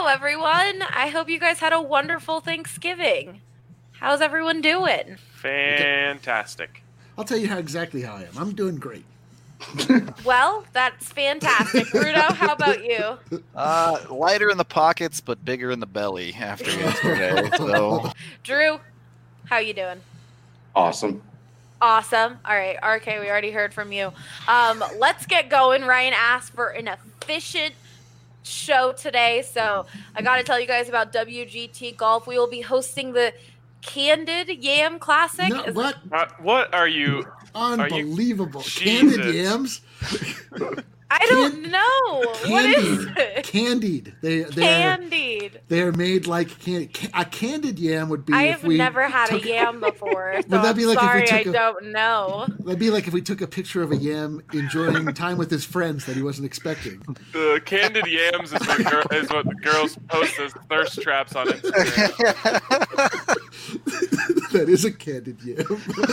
everyone. I hope you guys had a wonderful Thanksgiving. How's everyone doing? Fantastic. I'll tell you exactly how I am. I'm doing great. Well, that's fantastic. Rudo, how about you? Lighter in the pockets, but bigger in the belly after yesterday. So, Drew, how you doing? Awesome. Awesome. All right, RK, we already heard from you. Let's get going. Ryan asked for an efficient show today, so I got to tell you guys about WGT Golf. We will be hosting the Candid Yam Classic. No, what? What are you? Unbelievable. Jesus. Candied yams? I don't know. What is it? Candied. Candied. They're made like candy. A candied yam would be I if have we never had took, a yam before, so Would that be I'm like if we sorry, took I don't know. That'd be like if we took a picture of a yam enjoying time with his friends that he wasn't expecting. The candied yams is what the girls post as thirst traps on Instagram. That is a candied yam.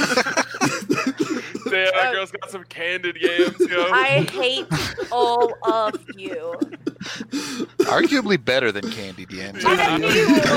That girl's got some candied yams, yo. I hate all of you. arguably better than candied yams. Anyway,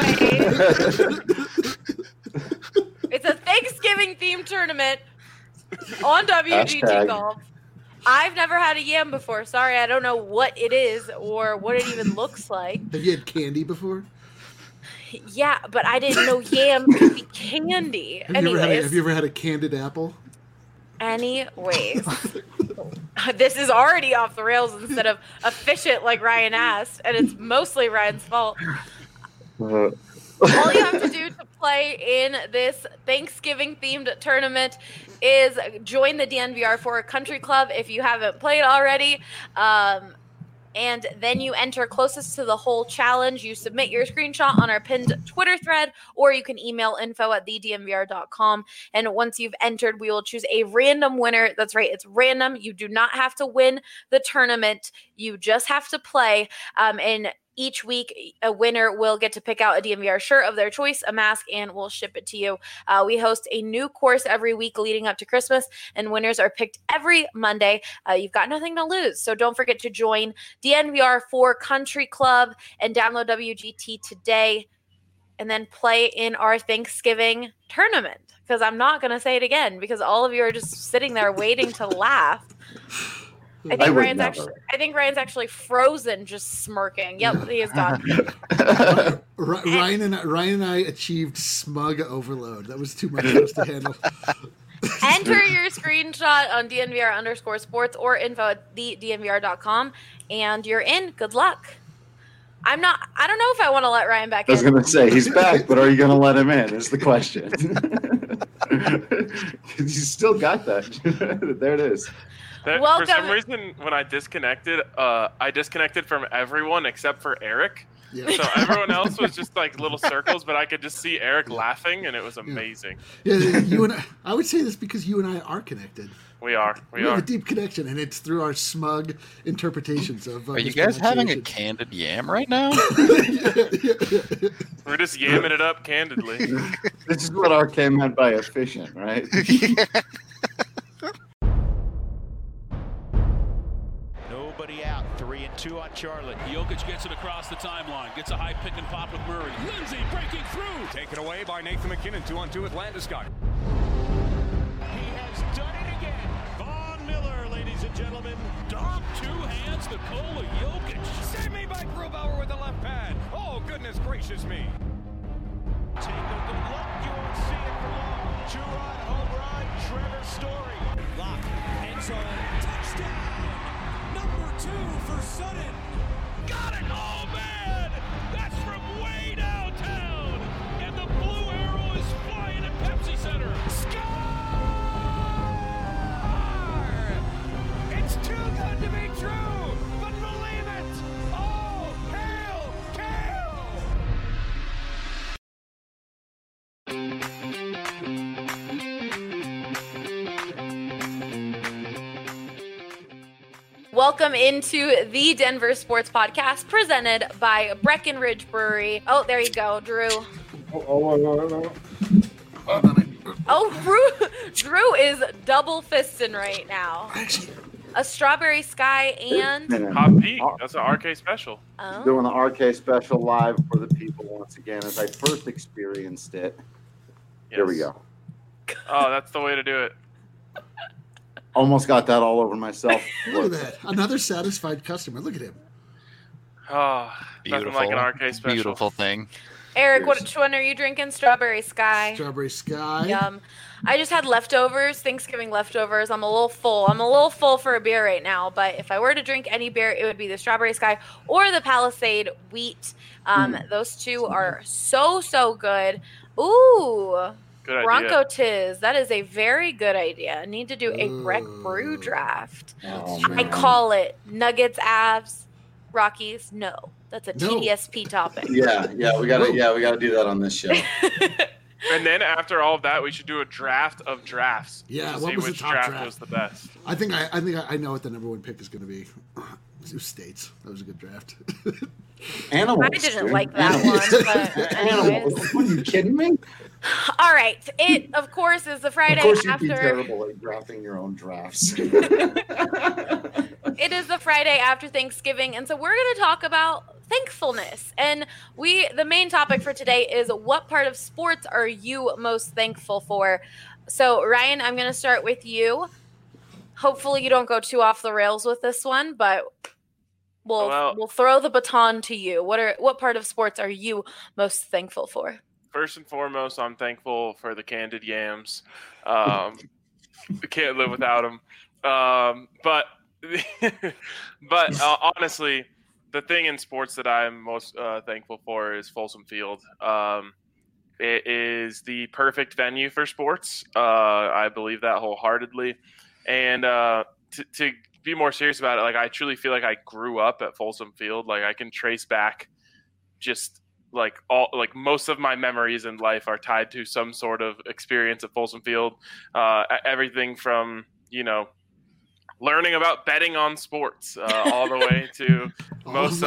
it's a Thanksgiving themed tournament on WGT Hashtag. Golf. I've never had a yam before. Sorry, I don't know what it is or what it even looks like. Have you had candy before? Yeah, but I didn't know yam could be candy. Have you Anyways, ever had a candied apple? anyways, this is already off the rails instead of efficient like Ryan asked, and it's mostly Ryan's fault. All you have to do to play in this Thanksgiving-themed tournament is join the DNVR4 Country Club if you haven't played already. And then you enter closest to the whole challenge. You submit your screenshot on our pinned Twitter thread, or you can email info@thednvr.com. And once you've entered, we will choose a random winner. That's right, it's random. You do not have to win the tournament. You just have to play. And each week, a winner will get to pick out a DNVR shirt of their choice, a mask, and we'll ship it to you. We host a new course every week leading up to Christmas, and winners are picked every Monday. You've got nothing to lose, so don't forget to join DNVR4 Country Club and download WGT today, and then play in our Thanksgiving tournament. Because I'm not going to say it again, because all of you are just sitting there waiting to laugh. I think Ryan's actually frozen, just smirking. Yep, he is gone. Ryan and I achieved smug overload. That was too much for us to handle. Enter your screenshot on DNVR_sports or info@thednvr.com, and you're in. Good luck. I don't know if I want to let Ryan back in. I was going to say, he's back, but are you going to let him in is the question. You still got that. There it is. Welcome. For some reason, when I disconnected from everyone except for Eric. Yeah. So everyone else was just like little circles, but I could just see Eric laughing, and it was amazing. Yeah, you and I would say this because you and I are connected. We are. We have a deep connection, and it's through our smug interpretations of. Are you guys having a candied yam right now? We're just yamming it up candidly. This is what RK meant by efficient, right? Nobody out. 3-2 on Charlotte. Jokic gets it across the timeline. Gets a high pick and pop with Murray. Lindsay breaking through. Taken away by Nathan McKinnon. 2-on-2 with Landeskog. He has done it again. Von Miller, ladies and gentlemen. Dom, two hands, Nikola Jokic. Save me by Grubauer with the left pad. Oh, goodness gracious me. Take a good look. You won't see it for long. Two-run home run. Trevor Story. Lock. End zone. Touchdown. Number 2 for Sutton. Got it. Oh, man. That's from way downtown. And the blue arrow is flying at Pepsi Center. Score! It's too good to be true, but believe it. Oh, hail, Kale! Welcome into the Denver Sports Podcast presented by Breckenridge Brewery. Oh, there you go, Drew. Oh, Drew is double fisting right now. A Strawberry Sky and Hot Peak. That's an RK special. Doing the RK special live for the people once again as I first experienced it. Here we go. Oh, that's the way to do it. Almost got that all over myself. Look at that. Another satisfied customer. Look at him. Oh, nothing like an RK special. Beautiful thing. Eric, which one are you drinking? Strawberry Sky. Strawberry Sky. Yum. I just had leftovers, Thanksgiving leftovers. I'm a little full. I'm a little full for a beer right now, but if I were to drink any beer, it would be the Strawberry Sky or the Palisade Wheat. Those two are so good. Ooh. Good idea. Bronco Tiz. That is a very good idea. I need to do a Breck Brew draft. Oh, I call it Nuggets, Avs, Rockies. No, that's a TDSP topic. Yeah, we gotta do that on this show. And then after all of that, we should do a draft of drafts. Yeah, to what see was the which top draft? was the best. I think I know what the number one pick is going to be. Sioux States. That was a good draft. Animals. I didn't like that one, but anyways. Are you kidding me? All right. It, of course, is the Friday Of course, you'd after. be terrible at drafting your own drafts. It is the Friday after Thanksgiving, and so we're going to talk about thankfulness. And the main topic for today is what part of sports are you most thankful for? So, Ryan, I'm going to start with you. Hopefully, you don't go too off the rails with this one, but we'll throw the baton to you. What part of sports are you most thankful for? First and foremost, I'm thankful for the candied yams. Can't live without them. But honestly, the thing in sports that I'm most thankful for is Folsom Field. It is the perfect venue for sports. I believe that wholeheartedly. And to be more serious about it, like I truly feel like I grew up at Folsom Field. Like I can trace back just most of my memories in life are tied to some sort of experience at Folsom Field. Everything from, learning about betting on sports all the way to most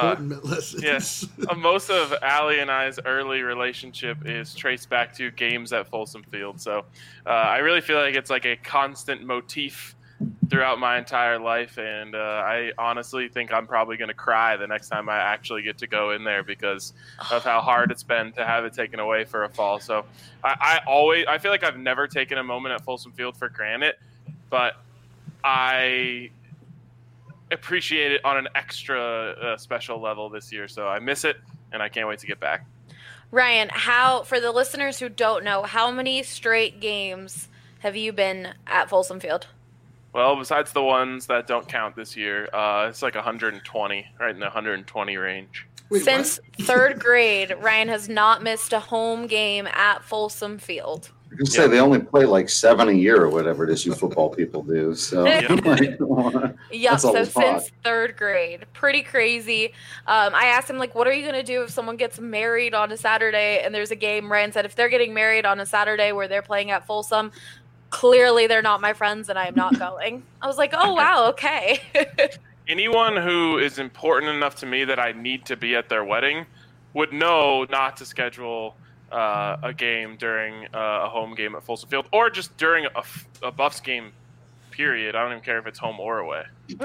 of Allie and I's early relationship is traced back to games at Folsom Field. So I really feel like it's like a constant motif throughout my entire life, and I honestly think I'm probably going to cry the next time I actually get to go in there because of how hard it's been to have it taken away for a fall. So I feel like I've never taken a moment at Folsom Field for granted, but I appreciate it on an extra special level this year. So I miss it, and I can't wait to get back. Ryan, for the listeners who don't know, how many straight games have you been at Folsom Field? Well, besides the ones that don't count this year, it's like 120, right in the 120 range. Wait, Since third grade, Ryan has not missed a home game at Folsom Field. You can say they only play like 7 a year or whatever it is you football people do. So, since third grade. Pretty crazy. I asked him, what are you going to do if someone gets married on a Saturday and there's a game? Ryan said, if they're getting married on a Saturday where they're playing at Folsom, clearly they're not my friends and I am not going. I was like, oh, wow, okay. Anyone who is important enough to me that I need to be at their wedding would know not to schedule a game during a home game at Folsom Field or just during a Buffs game, period. I don't even care if it's home or away.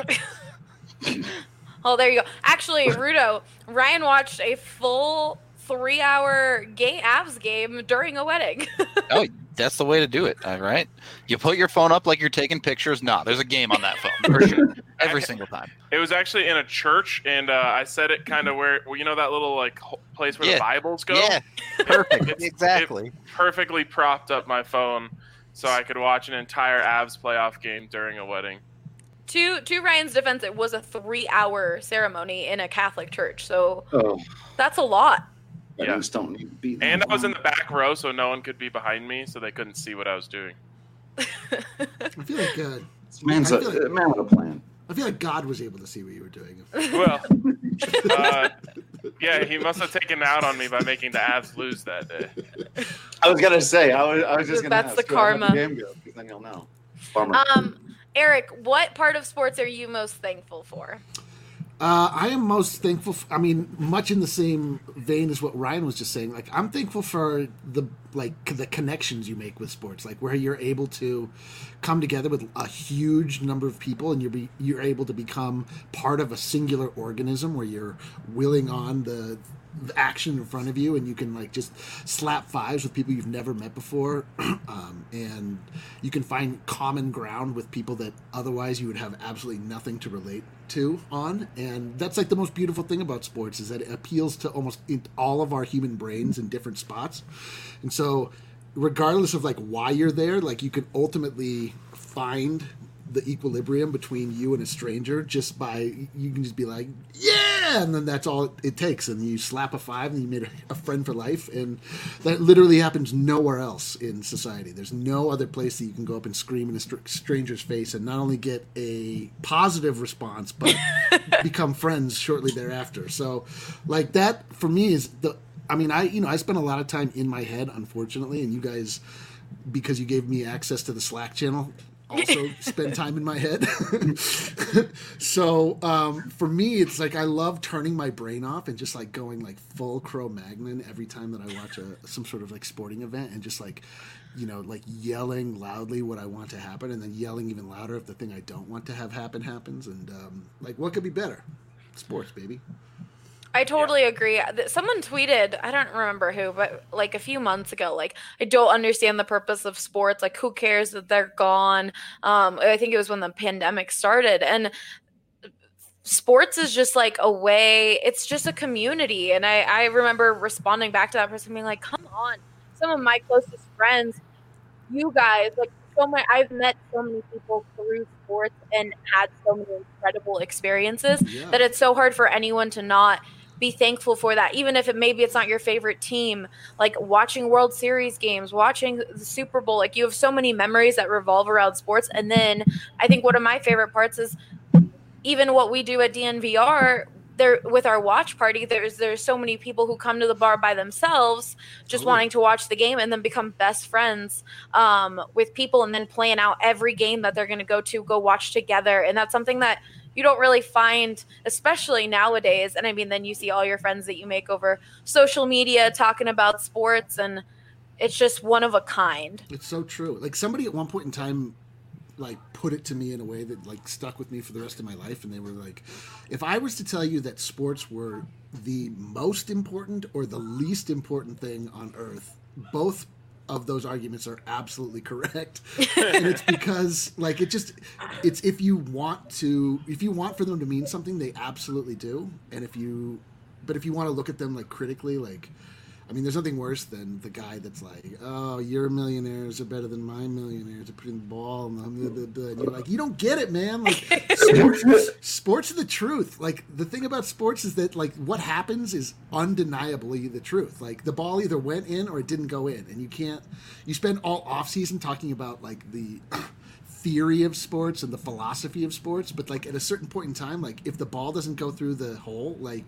Oh, there you go. Actually, Rudo, Ryan watched a full 3-hour Avs game during a wedding. Oh, that's the way to do it, all right? You put your phone up like you're taking pictures. No, there's a game on that phone for sure. Every single time. It was actually in a church, and I set it kind of where that little place where the Bibles go? Yeah, perfect. Exactly. It perfectly propped up my phone so I could watch an entire Avs playoff game during a wedding. To Ryan's defense, it was a 3-hour ceremony in a Catholic church, so that's a lot. Yeah. Don't need to be and I was in the back row, so no one could be behind me, so they couldn't see what I was doing. I feel like man with a plan. I feel like God was able to see what you were doing. Well, yeah, he must have taken out on me by making the Avs lose that day. I was gonna say, I was just gonna. That's the karma. The game goes, because then you'll know. Bummer. Eric, what part of sports are you most thankful for? I am most thankful. Much in the same vein as what Ryan was just saying. Like, I'm thankful for the connections you make with sports, like where you're able to come together with a huge number of people, and you're able to become part of a singular organism where you're willing on the action in front of you, and you can like just slap fives with people you've never met before, and you can find common ground with people that otherwise you would have absolutely nothing to relate to on. And that's like the most beautiful thing about sports, is that it appeals to almost all of our human brains in different spots. And so regardless of like why you're there, like you can ultimately find the equilibrium between you and a stranger just by, you can just be like, yeah, and then that's all it takes, and you slap a five and you made a friend for life. And that literally happens nowhere else in society. There's no other place that you can go up and scream in a stranger's face and not only get a positive response but become friends shortly thereafter. So like that for me is I spend a lot of time in my head, unfortunately, and you guys, because you gave me access to the Slack channel, also spend time in my head. So for me, it's like I love turning my brain off and just like going like full Cro-Magnon every time that I watch some sort of like sporting event, and just like, like yelling loudly what I want to happen, and then yelling even louder if the thing I don't want to have happen happens. And like, what could be better? Sports, baby. I totally agree. Someone tweeted, I don't remember who, but like a few months ago, like, I don't understand the purpose of sports. Like, who cares that they're gone? I think it was when the pandemic started. And sports is just like a way, it's just a community. And I remember responding back to that person being like, come on, some of my closest friends, you guys, like, I've met so many people through sports and had so many incredible experiences that it's so hard for anyone to not be thankful for that, even if maybe it's not your favorite team. Like watching World Series games, watching the Super Bowl, like you have so many memories that revolve around sports. And then I think one of my favorite parts is even what we do at DNVR. There, with our watch party, there's so many people who come to the bar by themselves, just wanting to watch the game, and then become best friends with people, and then plan out every game that they're going to go watch together. And that's something that you don't really find, especially nowadays. And I mean, then you see all your friends that you make over social media talking about sports, and it's just one of a kind. It's so true. Like somebody at one point in time like put it to me in a way that like stuck with me for the rest of my life, and they were like, if I was to tell you that sports were the most important or the least important thing on earth, both of those arguments are absolutely correct. And it's because like it's if you want for them to mean something, they absolutely do. And if you want to look at them like critically, like, I mean, there's nothing worse than the guy that's like, oh, your millionaires are better than my millionaires at putting the ball. And you're like, you don't get it, man. Like, sports are the truth. Like, the thing about sports is that, like, what happens is undeniably the truth. Like, the ball either went in or it didn't go in. And you spend all offseason talking about, like, the theory of sports and the philosophy of sports. But, like, at a certain point in time, like, if the ball doesn't go through the hole, like,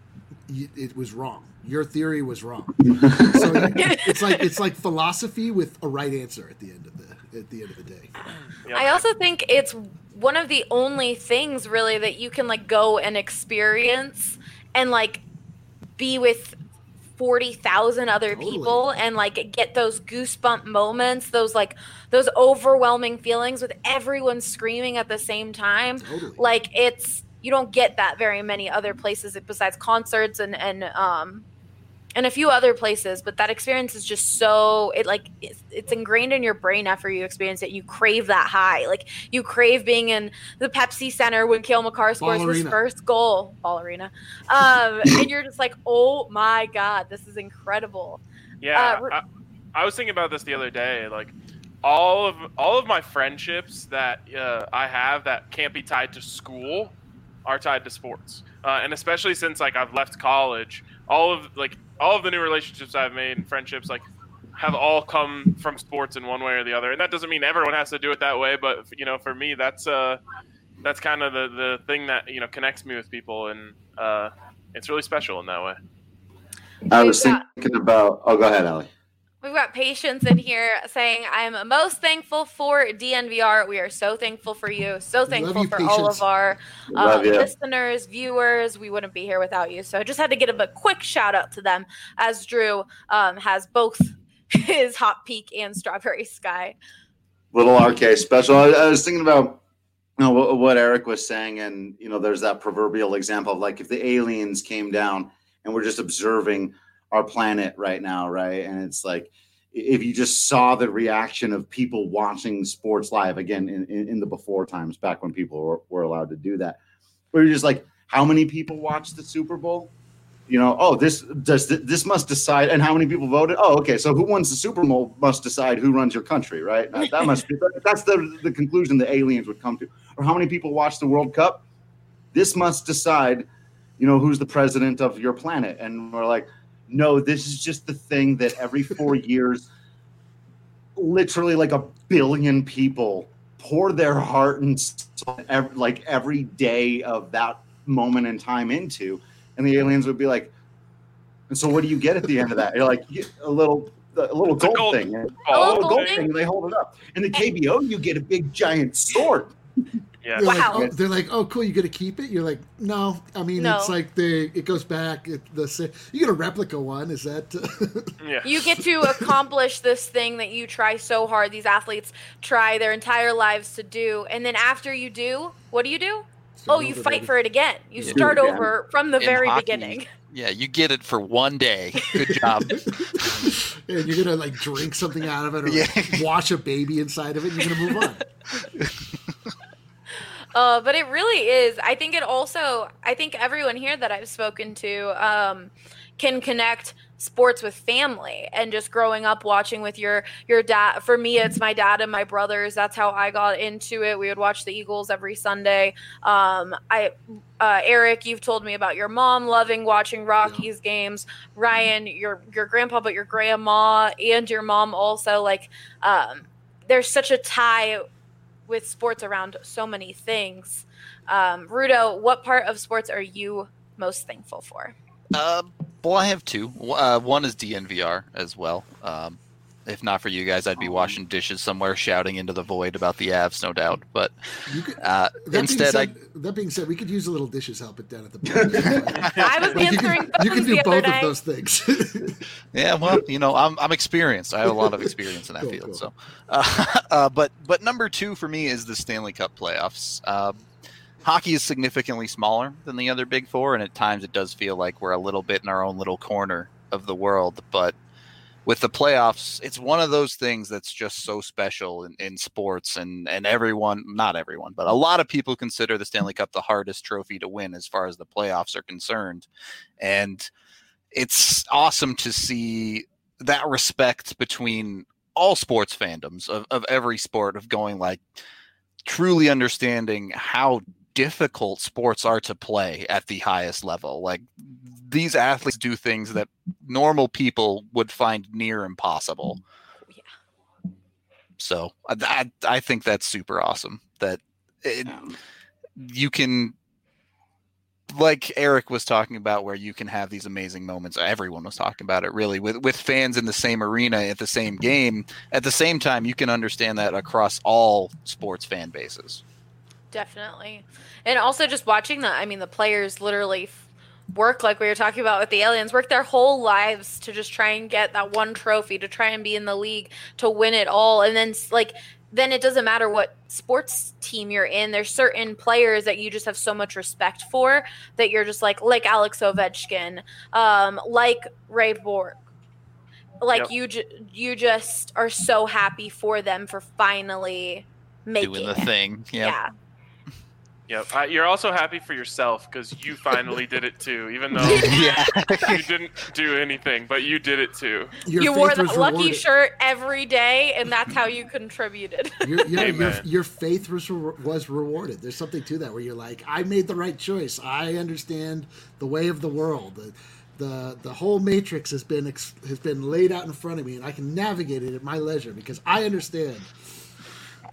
it was wrong. Your theory was wrong. So it's like philosophy with a right answer at the end of the day. Yep. I also think it's one of the only things really that you can like go and experience and like be with 40,000 other people and like get those goosebump moments, those overwhelming feelings with everyone screaming at the same time. Like you don't get that very many other places besides concerts and a few other places, but that experience is just so it's ingrained in your brain after you experience it. You crave that high. Like you crave being in the Pepsi Center when Cale Makar scores his first goal, Ball Arena. And you're just like, oh my God, this is incredible. Yeah. I was thinking about this the other day. Like all of my friendships that I have that can't be tied to school are tied to sports. And especially since like I've left college, all of the new relationships I've made and friendships like have all come from sports in one way or the other. And that doesn't mean everyone has to do it that way, but for me that's kind of the thing that connects me with people, and it's really special in that way. I was thinking about. Oh, go ahead, Allie. We've got Patience in here saying, I'm most thankful for DNVR. We are so thankful for you. So thankful you, for Patience. all of our Love you. listeners, viewers. We wouldn't be here without you. So I just had to give a quick shout out to them, as Drew has both his Hot Peak and Strawberry Sky. Little RK special. I was thinking about what Eric was saying, and there's that proverbial example of like if the aliens came down and we're just observing our planet right now, right? And it's like if you just saw the reaction of people watching sports live again in the before times, back when people were allowed to do that, where you're just like, how many people watched the Super Bowl? This must decide, and how many people voted? Oh, okay. So who wins the Super Bowl must decide who runs your country, right? That must be that's the conclusion the aliens would come to. Or how many people watch the World Cup? This must decide, who's the president of your planet. And we're like, no, this is just the thing that every 4 years, literally like 1 billion people pour their heart and soul every day of that moment in time into. And the aliens would be like, and so what do you get at the end of that? You're like, a little gold thing. A little gold thing. They hold it up. In the KBO, you get a big giant sword. Yeah. Wow. They're like, oh, cool, you get to keep it? You're like, no. I mean, No. it's like it goes back. You get a replica one. Is that? Yeah. You get to accomplish this thing that you try so hard. These athletes try their entire lives to do. And then after you do, what do? You fight for it again. You start over from the In very hockey, beginning. Yeah, you get it for one day. Good job. And you're gonna like drink something out of it, or wash a baby inside of it. And you're gonna move on. But it really is. I think everyone here that I've spoken to can connect sports with family and just growing up watching with your dad. For me, it's my dad and my brothers. That's how I got into it. We would watch the Eagles every Sunday. Eric, you've told me about your mom loving watching Rockies games. Ryan, your grandpa, but your grandma and your mom also. Like, there's such a tie with sports around so many things. Rudo, what part of sports are you most thankful for? Well, I have two. One is DNVR as well. If not for you guys, I'd be washing dishes somewhere, shouting into the void about the Avs, no doubt. But that being said, we could use a little dishes help it down at the bar. I was answering you can do the both other of day. those things. Yeah, well, I'm experienced. I have a lot of experience in that field. Cool. So, but number two for me is the Stanley Cup playoffs. Hockey is significantly smaller than the other Big Four, and at times it does feel like we're a little bit in our own little corner of the world. But with the playoffs, it's one of those things that's just so special in sports, and everyone, not everyone, but a lot of people consider the Stanley Cup the hardest trophy to win as far as the playoffs are concerned. And it's awesome to see that respect between all sports fandoms of every sport, of going like truly understanding how difficult sports are to play at the highest level. Like, these athletes do things that normal people would find near impossible. Yeah. So I think that's super awesome that you can, like Eric was talking about, where you can have these amazing moments. Everyone was talking about it, really, with fans in the same arena at the same game. At the same time, you can understand that across all sports fan bases. Definitely. And also just watching the players literally work, like we were talking about with the aliens, work their whole lives to just try and get that one trophy, to try and be in the league, to win it all. And then it doesn't matter what sports team you're in. There's certain players that you just have so much respect for that you're just like Alex Ovechkin, like Ray Bork. Like, yep. You just are so happy for them for finally making doing the it. thing. Yep. Yeah. Yep. You're also happy for yourself because you finally did it too, even though you didn't do anything, but you did it too. You wore that lucky shirt every day, and that's how you contributed. Your faith was rewarded. There's something to that where you're like, I made the right choice. I understand the way of the world. The whole matrix has been laid out in front of me, and I can navigate it at my leisure because I understand.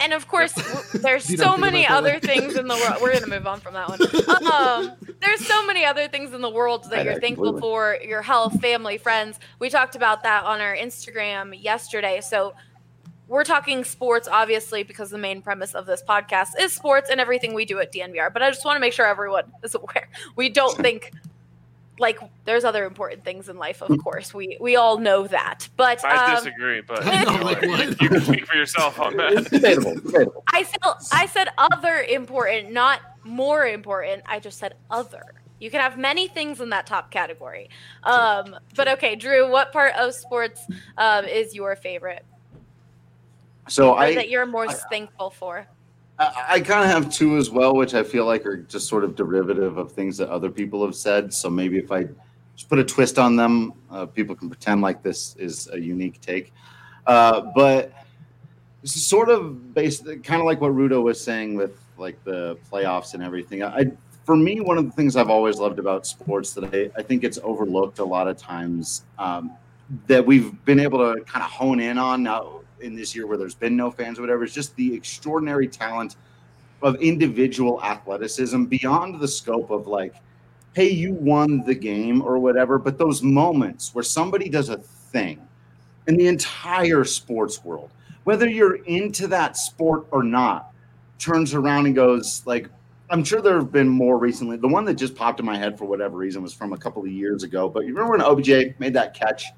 And of course, there's You don't so think many about that other way. things in the world. We're gonna move on from that one. There's so many other things in the world that you're thankful for: your health, family, friends. We talked about that on our Instagram yesterday. So we're talking sports, obviously, because the main premise of this podcast is sports and everything we do at DNVR. But I just want to make sure everyone is aware. We don't think like there's other important things in life, of course. We all know that. But I disagree, but I know, like, what? you can speak for yourself on It's that. debatable. I said other important, not more important. I just said other. You can have many things in that top category. But okay, Drew, what part of sports is your favorite? So Or that you're most thankful for? I kind of have two as well, which I feel like are just sort of derivative of things that other people have said. So maybe if I just put a twist on them, people can pretend like this is a unique take. But this is sort of based, kind of like what Rudo was saying with like the playoffs and everything. For me, one of the things I've always loved about sports that I think it's overlooked a lot of times that we've been able to kind of hone in on now in this year where there's been no fans or whatever, is just the extraordinary talent of individual athleticism beyond the scope of like, hey, you won the game or whatever, but those moments where somebody does a thing in the entire sports world, whether you're into that sport or not, turns around and goes like, I'm sure there have been more recently. The one that just popped in my head for whatever reason was from a couple of years ago, but you remember when OBJ made that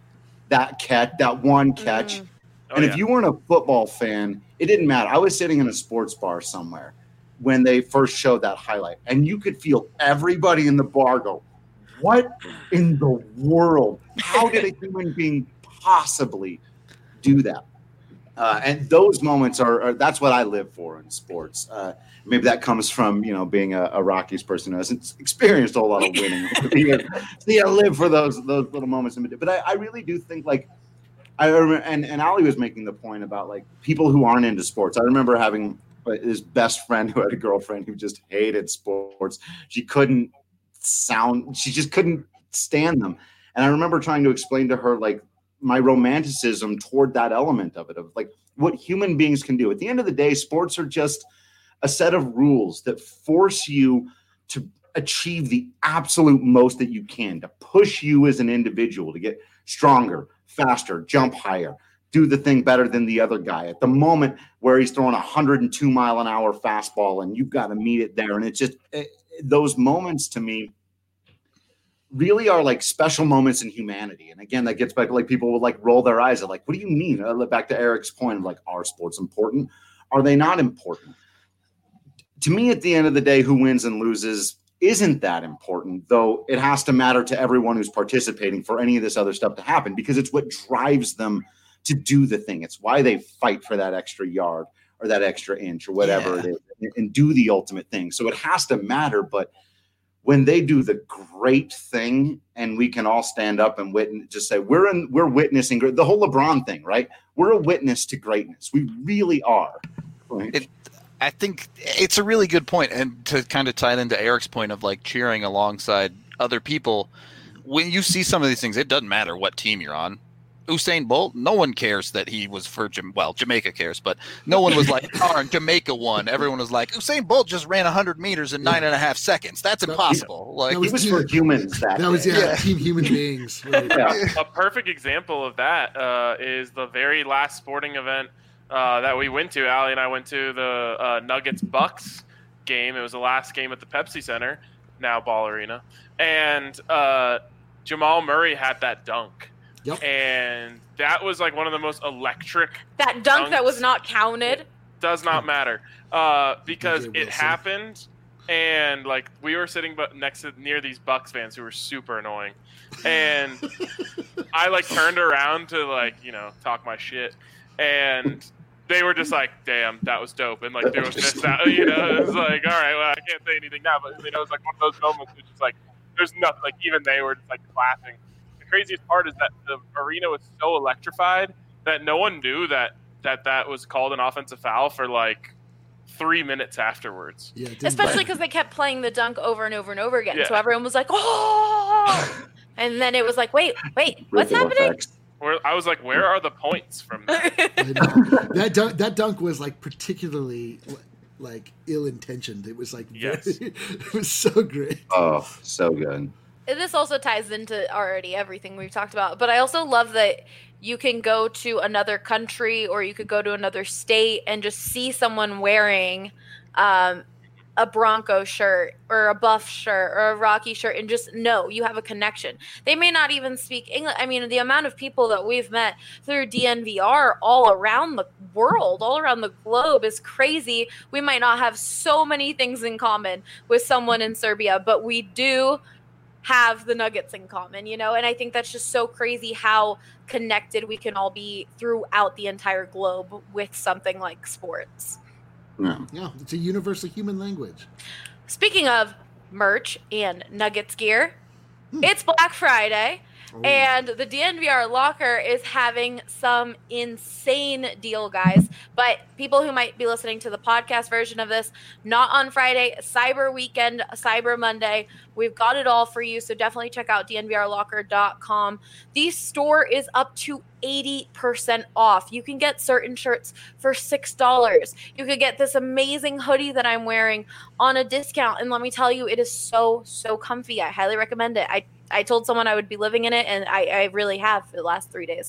one catch? Oh, And yeah. if you weren't a football fan, it didn't matter. I was sitting in a sports bar somewhere when they first showed that highlight, and you could feel everybody in the bar go, what in the world? How did a human being possibly do that? And those moments are that's what I live for in sports. Maybe that comes from, being a Rockies person who hasn't experienced a whole lot of winning. So I live for those little moments. But I really do think like, I remember, and Ali was making the point about like people who aren't into sports. I remember having his best friend who had a girlfriend who just hated sports. She just couldn't stand them. And I remember trying to explain to her like my romanticism toward that element of it, of like what human beings can do. At the end of the day, sports are just a set of rules that force you to achieve the absolute most that you can, to push you as an individual to get stronger, faster, jump higher, do the thing better than the other guy at the moment where he's throwing 102 mile an hour fastball and you've got to meet it there. And it's just those moments to me really are like special moments in humanity. And again, that gets back to like people will like roll their eyes at like, what do you mean? Back to Eric's point of like, are sports important? Are they not important? To me, at the end of the day, who wins and loses isn't that important, though it has to matter to everyone who's participating for any of this other stuff to happen, because it's what drives them to do the thing. It's why they fight for that extra yard or that extra inch or whatever it is and do the ultimate thing. So it has to matter. But when they do the great thing and we can all stand up and just say, we're witnessing the whole LeBron thing, right? We're a witness to greatness. We really are. Right? I think it's a really good point, and to kind of tie it into Eric's point of like cheering alongside other people, when you see some of these things, it doesn't matter what team you're on. Usain Bolt, no one cares that he was for Jamaica cares, but no one was like, oh, Jamaica won. Everyone was like, Usain Bolt just ran 100 meters in 9.5 seconds. That's impossible. Like he was for humans. That was team human beings. Right? A perfect example of that is the very last sporting event that we went to. Allie and I went to the Nuggets Bucks game. It was the last game at the Pepsi Center, now Ball Arena, and Jamal Murray had that dunk. Yep. And that was like one of the most electric. That dunk that was not counted. Does not matter because it happened, and like we were sitting near these Bucks fans who were super annoying, and I like turned around to like talk my shit, and they were just like, "Damn, that was dope," and like there was this out, it was like, "All right, well I can't say anything now," but it was like one of those moments which is like there's nothing, like even they were just like clapping. The craziest part is that the arena was so electrified that no one knew that was called an offensive foul for like 3 minutes afterwards. Yeah, especially because they kept playing the dunk over and over and over again. Yeah. So everyone was like, "Oh!" And then it was like, "Wait, what's happening?" I was like, where are the points from that? that dunk was like particularly like ill-intentioned. It was like it was so great. Oh, so good. This also ties into already everything we've talked about, but I also love that you can go to another country or you could go to another state and just see someone wearing a Bronco shirt or a Buff shirt or a Rocky shirt and just know you have a connection. They may not even speak English. I mean, the amount of people that we've met through DNVR all around the world, all around the globe is crazy. We might not have so many things in common with someone in Serbia, but we do have the Nuggets in common, and I think that's just so crazy how connected we can all be throughout the entire globe with something like sports. Yeah, it's a universal human language. Speaking of merch and Nuggets gear, it's Black Friday, and the DNVR Locker is having some insane deal, guys. But people who might be listening to the podcast version of this, not on Friday, Cyber Weekend, Cyber Monday, we've got it all for you. So definitely check out dnvrlocker.com. The store is up to 80% off. You can get certain shirts for $6. You could get this amazing hoodie that I'm wearing on a discount. And let me tell you, it is so, so comfy. I highly recommend it. I told someone I would be living in it, and I really have for the last 3 days.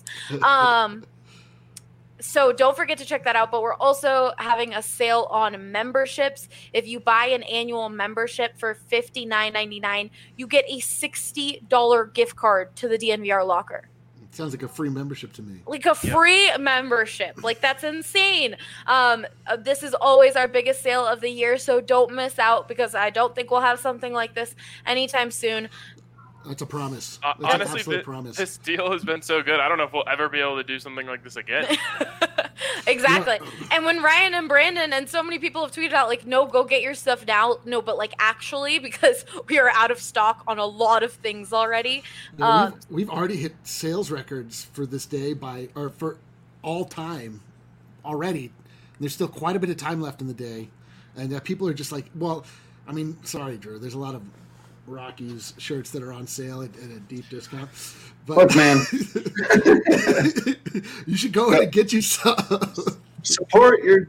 So don't forget to check that out. But we're also having a sale on memberships. If you buy an annual membership for $59.99, you get a $60 gift card to the DNVR Locker. Sounds like a free membership to me. Like a free membership. Like, that's insane. This is always our biggest sale of the year, so don't miss out, because I don't think we'll have something like this anytime soon. That's a promise. Honestly, this deal has been so good. I don't know if we'll ever be able to do something like this again. Exactly. And when Ryan and Brandon and so many people have tweeted out, like, no, go get your stuff now. No, but like, actually, because we are out of stock on a lot of things already. We've already hit sales records for this day for all time already. There's still quite a bit of time left in the day. And people are just like, well, I mean, sorry, Drew, there's a lot of Rockies shirts that are on sale at a deep discount. But look, man, you should go ahead and get you some. Support your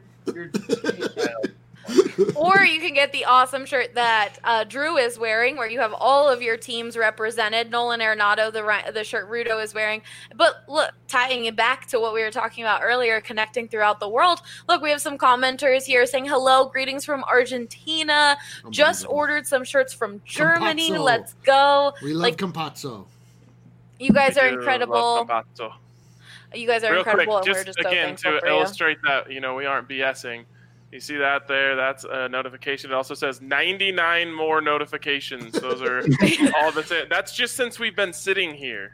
Or you can get the awesome shirt that Drew is wearing, where you have all of your teams represented. Nolan Arenado, the shirt Rudo is wearing. But look, tying it back to what we were talking about earlier, connecting throughout the world. Look, we have some commenters here saying hello, greetings from Argentina. Just ordered some shirts from Germany. Campazzo. Let's go. We love Campazzo. You guys are incredible. You guys are Real incredible, quick, and just we're just so again thankful to for illustrate that we aren't BSing. You see that there? That's a notification. It also says 99 more notifications. Those are all that's it. That's just since we've been sitting here.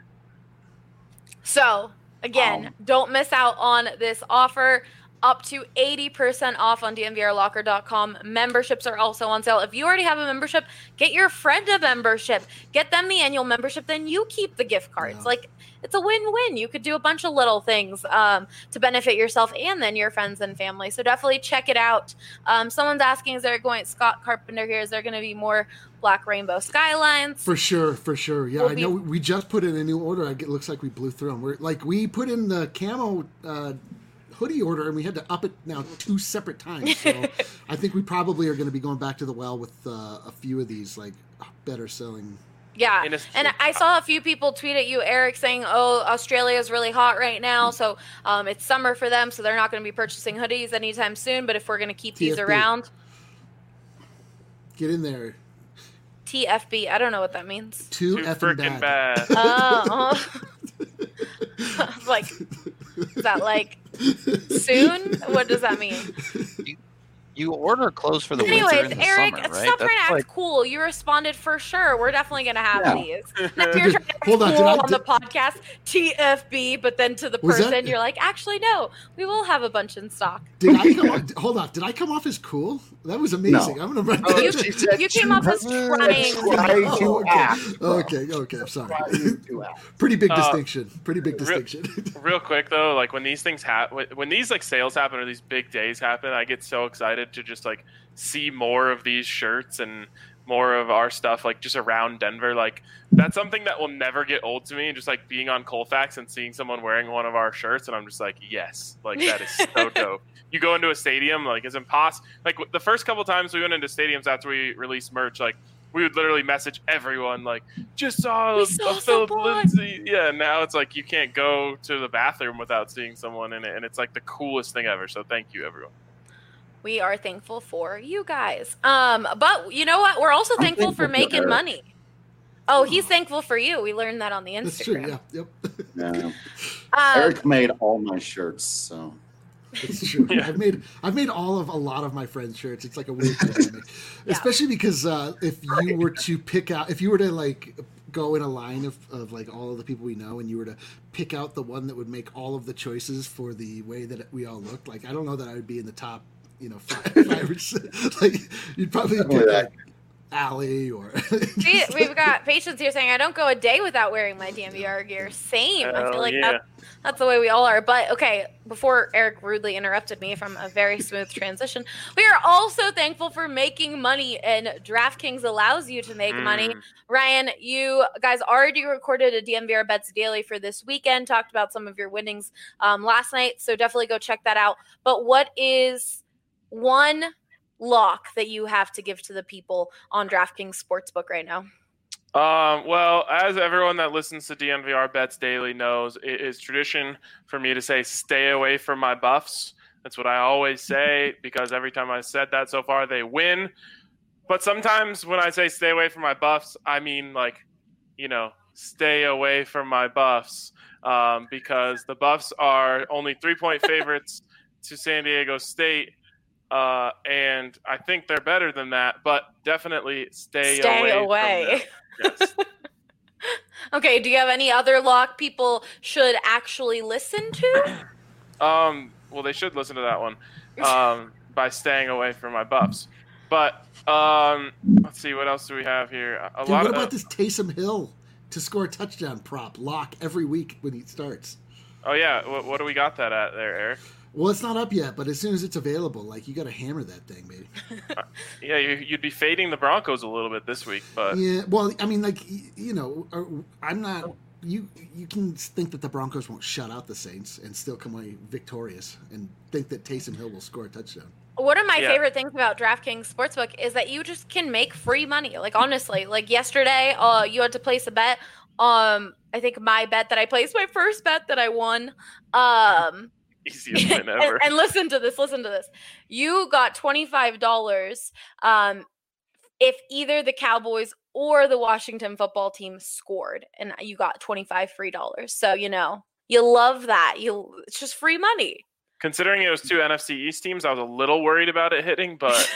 So, again, don't miss out on this offer. Up to 80% off on dnvrlocker.com. Memberships are also on sale. If you already have a membership, get your friend a membership. Get them the annual membership, then you keep the gift cards. Yeah. Like, it's a win-win. You could do a bunch of little things to benefit yourself and then your friends and family. So definitely check it out. Someone's asking, Scott Carpenter here, is there going to be more Black Rainbow Skylines? For sure. Yeah, I know we just put in a new order. It looks like we blew through them. We put in the camo hoodie order, and we had to up it now 2 separate times. So I think we probably are going to be going back to the well with a few of these better selling. Yeah, and I saw a few people tweet at you, Eric, saying, oh, Australia is really hot right now, so it's summer for them, so they're not going to be purchasing hoodies anytime soon, but if we're going to keep these around. Get in there. TFB, I don't know what that means. Too effing bad. Oh. I was like, is that like soon? What does that mean? You order clothes for the winter and the Eric, summer, right? stop trying to act cool. You responded for sure. We're definitely going to have these. Now you're trying to act cool on the podcast, TFB, but then to the person, you're like, actually, no, we will have a bunch in stock. Hold on. Did I come off as cool? That was amazing. No. I'm going to write that. You came off as trying to act. Okay, I'm sorry. Pretty big distinction. Real quick, though, like when these things happen, when these sales happen or these big days happen, I get so excited to just see more of these shirts and more of our stuff like just around Denver. Like that's something that will never get old to me. Just like being on Colfax and seeing someone wearing one of our shirts, and I'm just like, yes, like that is so dope. You go into a stadium, like it's impossible. Like the first couple times we went into stadiums after we released merch, like we would literally message everyone, like, just saw a Philip Lindsay. Yeah, now it's like you can't go to the bathroom without seeing someone in it, and it's like the coolest thing ever. So thank you, everyone. We are thankful for you guys. But you know what? We're also thankful for making money. Oh, he's thankful for you. We learned that on the Instagram. That's true, yeah. Yep. Yeah. Eric made all my shirts, so. It's true. Yeah. I've made a lot of my friends' shirts. It's like a weird dynamic, especially because if you were to like go in a line of like all of the people we know, and you were to pick out the one that would make all of the choices for the way that we all looked, like I don't know that I would be in the top, five or six. Like you'd probably pick like Allie or. We've got Patience here saying, "I don't go a day without wearing my DNVR gear." Same. I feel like that's the way we all are. But okay, before Eric rudely interrupted me from a very smooth transition, we are also thankful for making money, and DraftKings allows you to make money. Ryan, you guys already recorded a DNVR Bets Daily for this weekend, talked about some of your winnings last night, so definitely go check that out. But what is one lock that you have to give to the people on DraftKings Sportsbook right now? Well, as everyone that listens to DNVR Bets Daily knows, it is tradition for me to say, stay away from my buffs. That's what I always say, because every time I said that so far, they win. But sometimes when I say stay away from my buffs, I mean stay away from my buffs, because the Buffs are only 3-point favorites to San Diego State. And I think they're better than that, but definitely stay away. From them. Yes. Okay, do you have any other lock people should actually listen to? Well, they should listen to that one by staying away from my buffs. But let's see, what else do we have here? What about this Taysom Hill to score a touchdown prop lock every week when he starts? Oh, yeah. What do we got that at there, Eric? Well, it's not up yet, but as soon as it's available, like you got to hammer that thing, baby. Yeah, you'd be fading the Broncos a little bit this week, but yeah. Well, I mean, like I'm not. You can think that the Broncos won't shut out the Saints and still come away victorious, and think that Taysom Hill will score a touchdown. One of my favorite things about DraftKings Sportsbook is that you just can make free money. Like honestly, like yesterday, you had to place a bet. I think my bet that I placed, my first bet that I won. Easiest win ever. And listen to this. You got $25 if either the Cowboys or the Washington football team scored, and you got $25 free. So, you love that. It's just free money. Considering it was two NFC East teams, I was a little worried about it hitting, but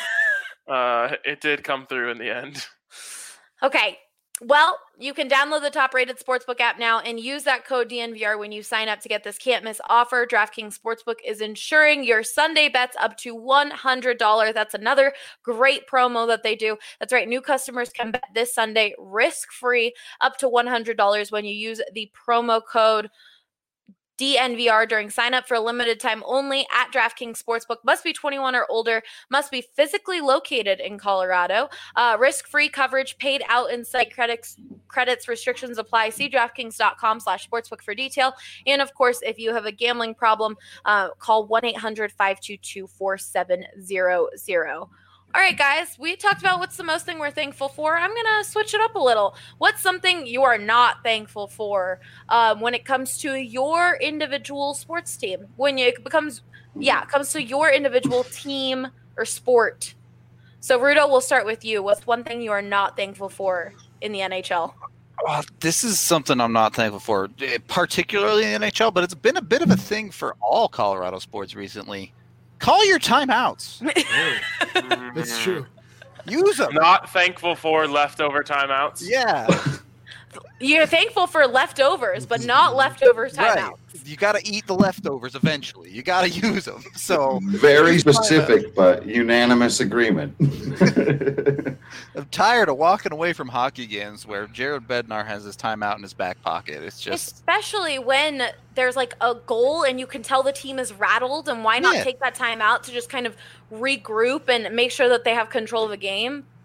it did come through in the end. Okay. Well, you can download the top-rated Sportsbook app now and use that code DNVR when you sign up to get this can't-miss offer. DraftKings Sportsbook is ensuring your Sunday bets up to $100. That's another great promo that they do. That's right. New customers can bet this Sunday risk-free up to $100 when you use the promo code DNVR during sign up for a limited time only at DraftKings Sportsbook. Must be 21 or older, must be physically located in Colorado. Risk-free coverage, paid out in site credits, restrictions apply. See DraftKings.com/sportsbook for detail. And of course, if you have a gambling problem, call 1-800-522-4700. All right, guys, we talked about what's the most thing we're thankful for. I'm going to switch it up a little. What's something you are not thankful for when it comes to your individual sports team? When it comes to your individual team or sport. So, Rudo, we'll start with you. What's one thing you are not thankful for in the NHL? This is something I'm not thankful for, particularly in the NHL, but it's been a bit of a thing for all Colorado sports recently. Call your timeouts. That's true. Use them. Not thankful for leftover timeouts. Yeah. You're thankful for leftovers, but not leftover timeouts. Right. You got to eat the leftovers eventually. You got to use them. So very specific, but unanimous agreement. I'm tired of walking away from hockey games where Jared Bednar has his timeout in his back pocket. It's just especially when there's like a goal and you can tell the team is rattled, and why not take that time out to just kind of regroup and make sure that they have control of the game?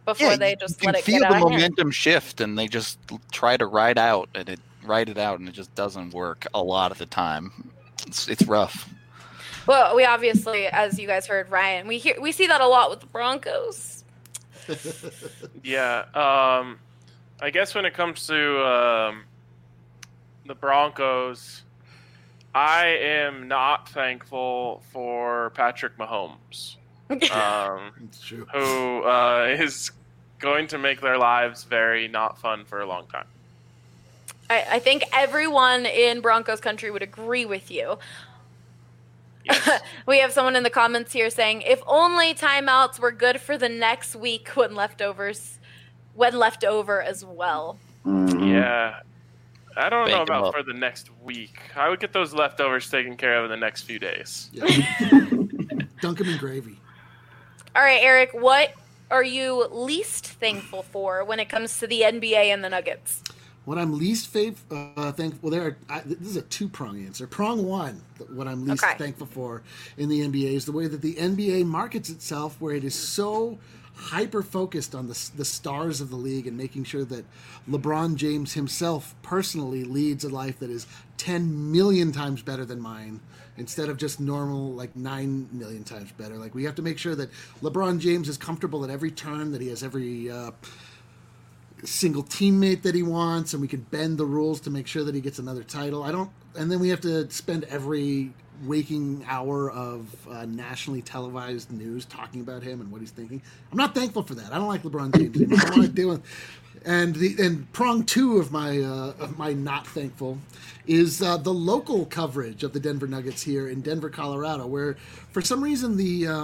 before they just you let can it feel get the out of hand. momentum shift, and they just try to ride it out, and it just doesn't work a lot of the time. It's rough. Well, we obviously, as you guys heard, Ryan, we see that a lot with the Broncos. Yeah, I guess when it comes to the Broncos, I am not thankful for Patrick Mahomes, It's true. who is going to make their lives very not fun for a long time. I think everyone in Broncos country would agree with you. Yes. We have someone in the comments here saying, if only timeouts were good for the next week when left over as well. Mhm. Yeah. I don't know Bank 'em about up. for the next week. I would get those leftovers taken care of in the next few days. Yeah. Dunk 'em in gravy. All right, Eric, what are you least thankful for when it comes to the NBA and the Nuggets? What I'm least thankful. This is a two-prong answer. Prong one, what I'm least Okay. thankful for in the NBA is the way that the NBA markets itself, where it is so hyper-focused on the stars of the league and making sure that LeBron James himself personally leads a life that is 10 million times better than mine, instead of just normal, like 9 million times better. Like, we have to make sure that LeBron James is comfortable at every turn, that he has every single teammate that he wants, and we can bend the rules to make sure that he gets another title. And then we have to spend every waking hour of nationally televised news talking about him and what he's thinking. I'm not thankful for that. I don't like LeBron James anymore. I don't want to deal with. And prong two of my not thankful is the local coverage of the Denver Nuggets here in Denver, Colorado, where for some reason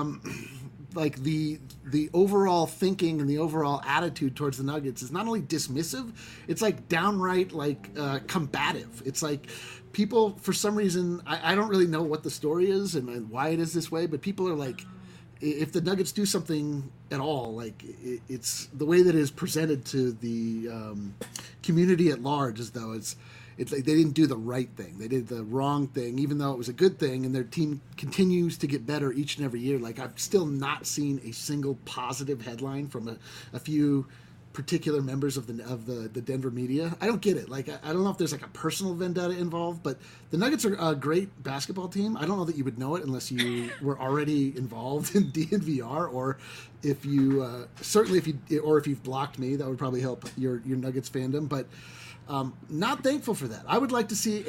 the overall thinking and the overall attitude towards the Nuggets is not only dismissive, it's like downright like combative. It's like people, for some reason, I don't really know what the story is and why it is this way, but people are like, if the Nuggets do something at all, like it's the way that it is presented to the community at large, as though it's like they didn't do the right thing. They did the wrong thing, even though it was a good thing, and their team continues to get better each and every year. Like, I've still not seen a single positive headline from a few particular members of the Denver media. I don't get it. Like, I don't know if there's like a personal vendetta involved, but the Nuggets are a great basketball team. I don't know that you would know it unless you were already involved in DNVR, or if you certainly if you've blocked me, that would probably help your Nuggets fandom. But not thankful for that. I would like to see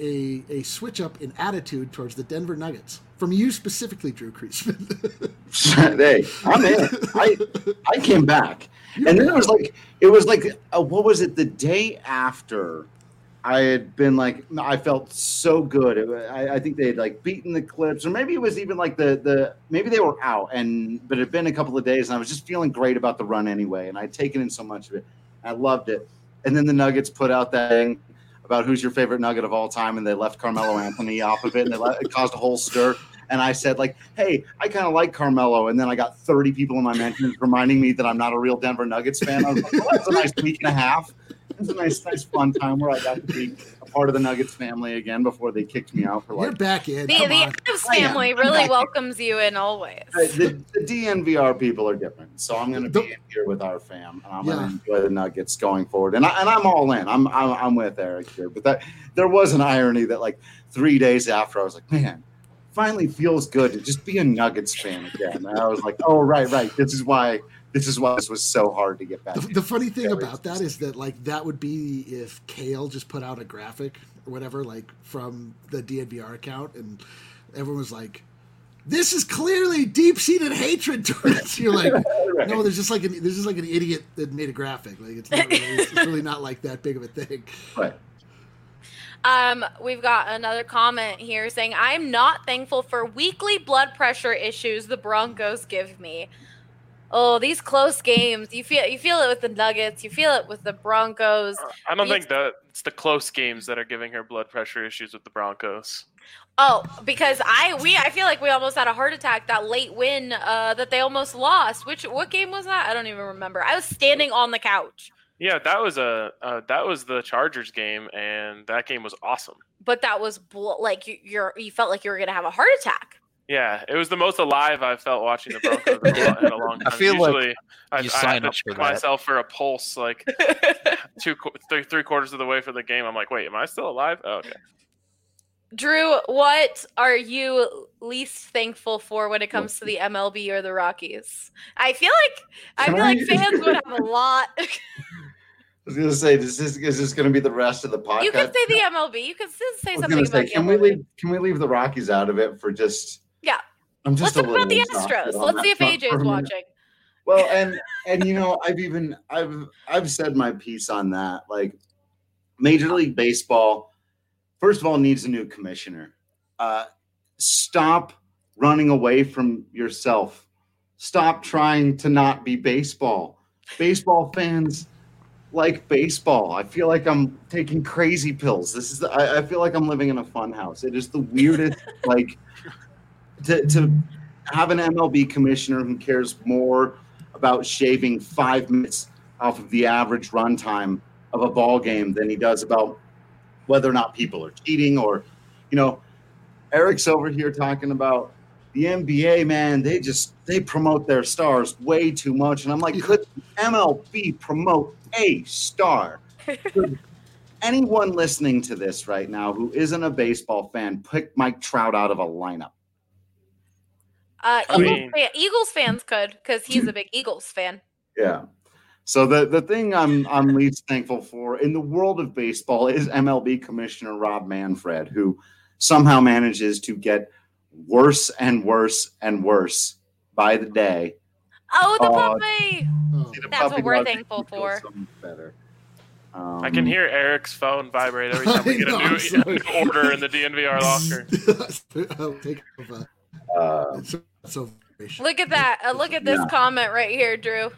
a switch up in attitude towards the Denver Nuggets from you specifically, Drew Creasman. Hey, I'm in. I came back, and then it was like what was it? The day after, I had been like, I felt so good. I think they had like beaten the Clips, or maybe it was even like maybe they were out, but it had been a couple of days, and I was just feeling great about the run anyway, and I'd taken in so much of it. I loved it. And then the Nuggets put out that thing about who's your favorite Nugget of all time, and they left Carmelo Anthony off of it, and it caused a whole stir. And I said, like, hey, I kind of like Carmelo. And then I got 30 people in my mentions reminding me that I'm not a real Denver Nuggets fan. I was like, well, that's a nice week and a half. It was a nice fun time where I got to be a part of the Nuggets family again before they kicked me out for You're like. back in. The Adams family really welcomes you in always. The DNVR people are different, so I'm going to be in here with our fam, and I'm going to enjoy the Nuggets going forward. And I'm all in. I'm with Eric here, but there was an irony that like 3 days after I was like, man, finally feels good to just be a Nuggets fan again. And I was like, oh right, this is why this was so hard to get back. The funny thing about that is that like that would be if Kale just put out a graphic or whatever, like from the DNVR account, and everyone was like, this is clearly deep-seated hatred towards you. Like, Right. no, there's just like an idiot that made a graphic. Like, it's really not like that big of a thing. Right. We've got another comment here saying, I'm not thankful for weekly blood pressure issues the Broncos give me. Oh, these close games. You feel it with the Nuggets. You feel it with the Broncos. I don't think that it's the close games that are giving her blood pressure issues with the Broncos. Oh, because I feel like we almost had a heart attack, that late win that they almost lost. What game was that? I don't even remember. I was standing on the couch. Yeah, that was the Chargers game, and that game was awesome. But that was like you felt like you were gonna have a heart attack. Yeah, it was the most alive I've felt watching the Broncos in a long time. I feel Usually, like you sign up for check that. myself for a pulse like 3/4 of the way for the game. I'm like, wait, am I still alive? Oh, okay. Drew, what are you least thankful for when it comes to the MLB or the Rockies? I feel like fans would have a lot. I was gonna say, is this gonna be the rest of the podcast? You can say the MLB. You can still say something about the can MLB. we leave the Rockies out of it for just? Yeah. I'm just Let's talk about the exhausted Astros. on Let's that see if front for a AJ's minute. watching. Well, and I've said my piece on that. Like, Major League Baseball, first of all, needs a new commissioner. Stop running away from yourself. Stop trying to not be baseball. Baseball fans like baseball. I feel like I'm taking crazy pills. I feel like I'm living in a fun house. It is the weirdest, like, to have an MLB commissioner who cares more about shaving 5 minutes off of the average runtime of a ball game than he does about whether or not people are cheating. Or, Eric's over here talking about the NBA, man, they promote their stars way too much. And I'm like, could MLB promote a star? Could anyone listening to this right now who isn't a baseball fan pick Mike Trout out of a lineup? Eagles fans could, because he's a big Eagles fan. Yeah. So the thing I'm least thankful for in the world of baseball is MLB Commissioner Rob Manfred, who somehow manages to get worse and worse and worse by the day. Oh, the puppy! The That's puppy what we're dog thankful feels for. so much better. I can hear Eric's phone vibrate every time we get a new order in the DNVR locker. I'll take over. Look at that. Look at this comment right here, Drew.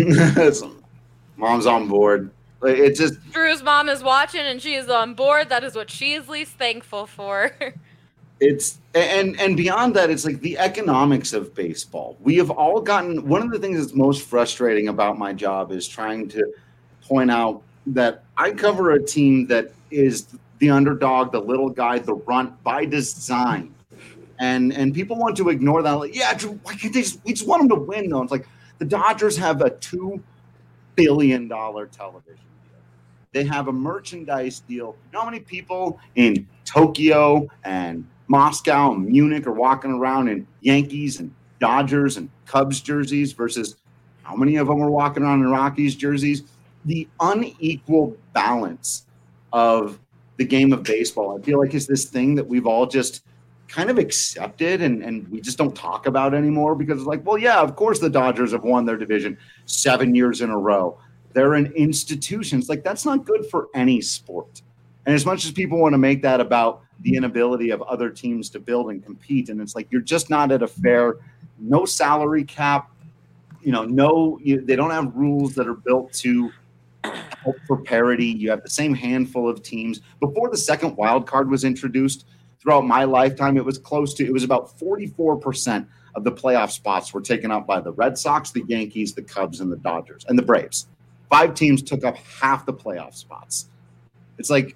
Mom's on board. It just Drew's mom is watching and she is on board. That is what she is least thankful for. It's and beyond that, it's like the economics of baseball. We have all gotten, one of the things that's most frustrating about my job is trying to point out that I cover a team that is the underdog, the little guy, the runt by design. And people want to ignore that. Like, yeah, Drew, why can't we just want them to win, though. It's like the Dodgers have a $2 billion television deal. They have a merchandise deal. You know how many people in Tokyo and Moscow and Munich are walking around in Yankees and Dodgers and Cubs jerseys versus how many of them are walking around in Rockies jerseys? The unequal balance of the game of baseball, I feel like, is this thing that we've all just kind of accepted and we just don't talk about anymore because it's like, well, yeah, of course the Dodgers have won their division 7 years in a row. They're an institution. It's like, that's not good for any sport. And as much as people want to make that about the inability of other teams to build and compete, and it's like, you're just not at a fair, no salary cap, they don't have rules that are built to help for parity. You have the same handful of teams. Before the second wild card was introduced, throughout my lifetime, it was about 44% of the playoff spots were taken up by the Red Sox, the Yankees, the Cubs, and the Dodgers, and the Braves. 5 teams took up half the playoff spots. It's like,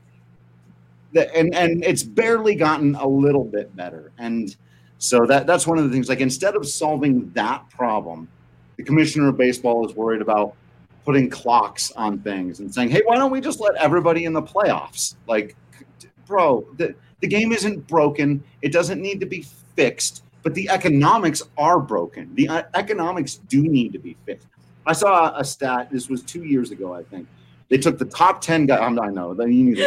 and it's barely gotten a little bit better. And so that's one of the things, like, instead of solving that problem, the commissioner of baseball is worried about putting clocks on things and saying, hey, why don't we just let everybody in the playoffs? Like, bro, the game isn't broken. It doesn't need to be fixed, but the economics are broken. The economics do need to be fixed. I saw a stat. This was 2 years ago, I think. They took the top 10 guys. I know. You need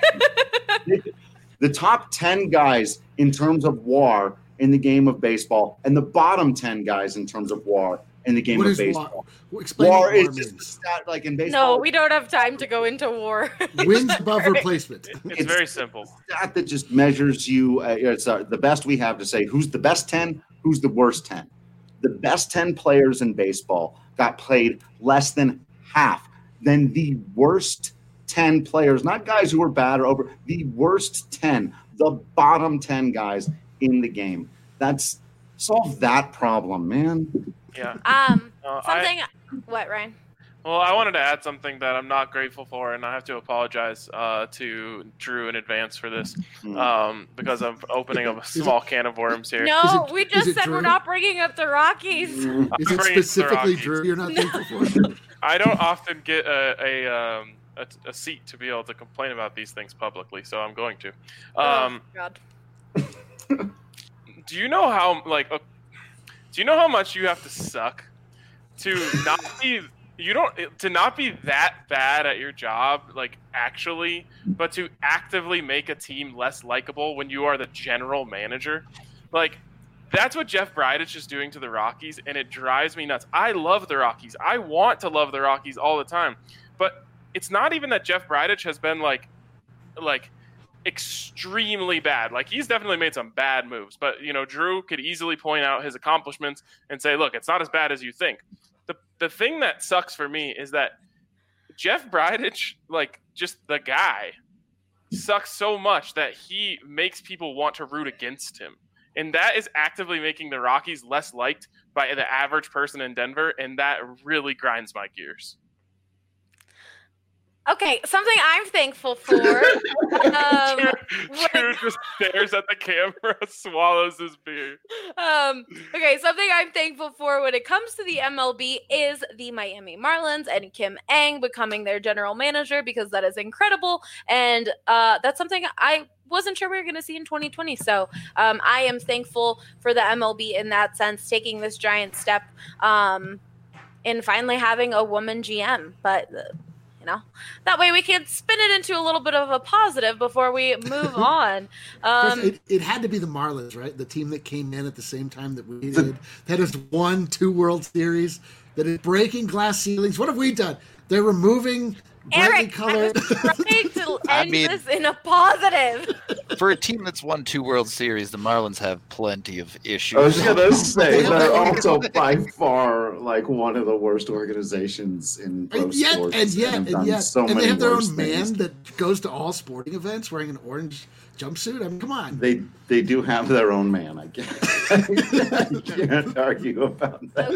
it. The top 10 guys in terms of WAR in the game of baseball and the bottom 10 guys in terms of WAR in the game of baseball. WAR is just a stat like in baseball. No, we don't have time to go into WAR. Wins above replacement. It's very simple. Stat that just measures you. It's the best we have to say who's the best 10, who's the worst 10. The best 10 players in baseball got played less than half than the worst 10 players, not guys who were bad or over, the worst 10, the bottom 10 guys in the game. Solve that problem, man. Yeah. What, Ryan? Well, I wanted to add something that I'm not grateful for, and I have to apologize to Drew in advance for this because I'm opening up a small can of worms here. No, Is it- we is just it said Drew? we're not bringing up the Rockies. Is I'm it bringing specifically the Drew Rockies. you're not thankful for? I don't often get a seat to be able to complain about these things publicly, so I'm going to. Oh, God. Do you know how do you know how much you have to suck to not be to not be that bad at your job, like actually, but to actively make a team less likable when you are the general manager? Like, that's what Jeff Bridich is doing to the Rockies, and it drives me nuts. I love the Rockies. I want to love the Rockies all the time, but it's not even that Jeff Bridich has been like extremely bad. Like, he's definitely made some bad moves, but Drew could easily point out his accomplishments and say, look, it's not as bad as you think. The thing that sucks for me is that Jeff Bridich, like, just the guy, sucks so much that he makes people want to root against him. And that is actively making the Rockies less liked by the average person in Denver, and that really grinds my gears. Okay, something I'm thankful for. Drew just stares at the camera, swallows his beer. Okay, something I'm thankful for when it comes to the MLB is the Miami Marlins and Kim Ng becoming their general manager, because that is incredible. And that's something I wasn't sure we were going to see in 2020. So I am thankful for the MLB in that sense, taking this giant step in finally having a woman GM. But that way we can spin it into a little bit of a positive before we move on. It had to be the Marlins, right? The team that came in at the same time that we did, that has won 2 World Series, that is breaking glass ceilings. What have we done? They're removing brightly Eric, colored. I was trying to end this in a positive. For a team that's won 2 World Series, the Marlins have plenty of issues. I was gonna say they're also by far like one of the worst organizations in pro sports. And yet, and they have their own man things. that goes to all sporting events wearing an orange jumpsuit. I mean, come on. They do have their own man, I guess. I can't argue about that.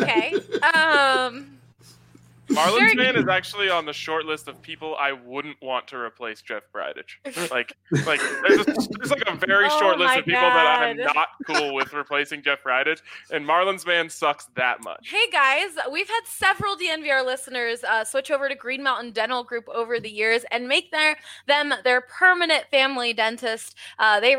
Okay. Marlins man is actually on the short list of people I wouldn't want to replace Jeff Bridich. Like there's like a very short list of people that I'm not cool with replacing Jeff Bridich, and Marlins man sucks that much. Hey guys, we've had several DNVR listeners switch over to Green Mountain Dental Group over the years and make them their permanent family dentist. They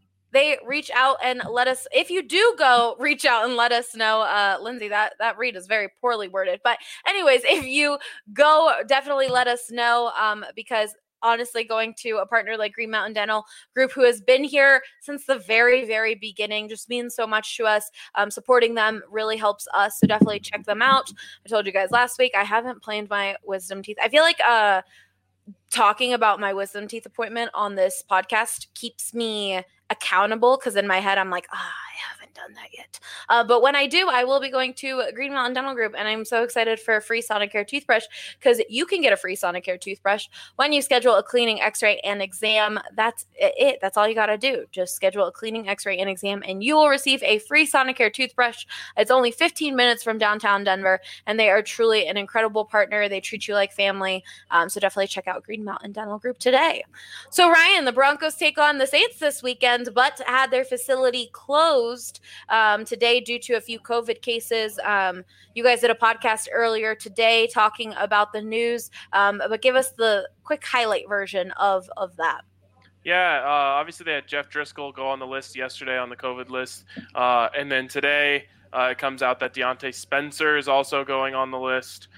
reach out and let us, if you do go, reach out and let us know. Lindsay, that read is very poorly worded. But anyways, if you go, definitely let us know, because honestly, going to a partner like Green Mountain Dental Group, who has been here since the very, very beginning, just means so much to us. Supporting them really helps us. So definitely check them out. I told you guys last week, I haven't planed my wisdom teeth. I feel like talking about my wisdom teeth appointment on this podcast keeps me accountable, because in my head I'm like, I haven't done that yet. But when I do, I will be going to Green Mountain Dental Group, and I'm so excited for a free Sonicare toothbrush, because you can get a free Sonicare toothbrush when you schedule a cleaning, x-ray, and exam. That's it. That's all you got to do. Just schedule a cleaning, x-ray, and exam, and you will receive a free Sonicare toothbrush. It's only 15 minutes from downtown Denver, and they are truly an incredible partner. They treat you like family. So definitely check out Green Mountain Dental Group today. So Ryan, the Broncos take on the Saints this weekend, but had their facility closed today due to a few COVID cases. You guys did a podcast earlier today talking about the news, but give us the quick highlight version of that. Yeah, obviously they had Jeff Driscoll go on the list yesterday on the COVID list, and then today it comes out that Deontay Spencer is also going on the list.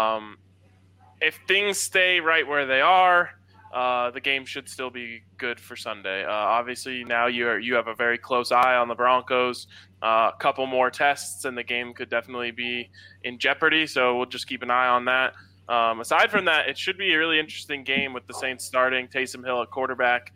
If things stay right where they are, the game should still be good for Sunday. Obviously, now you have a very close eye on the Broncos. A couple more tests, and the game could definitely be in jeopardy. So we'll just keep an eye on that. Aside from that, it should be a really interesting game with the Saints starting Taysom Hill at quarterback.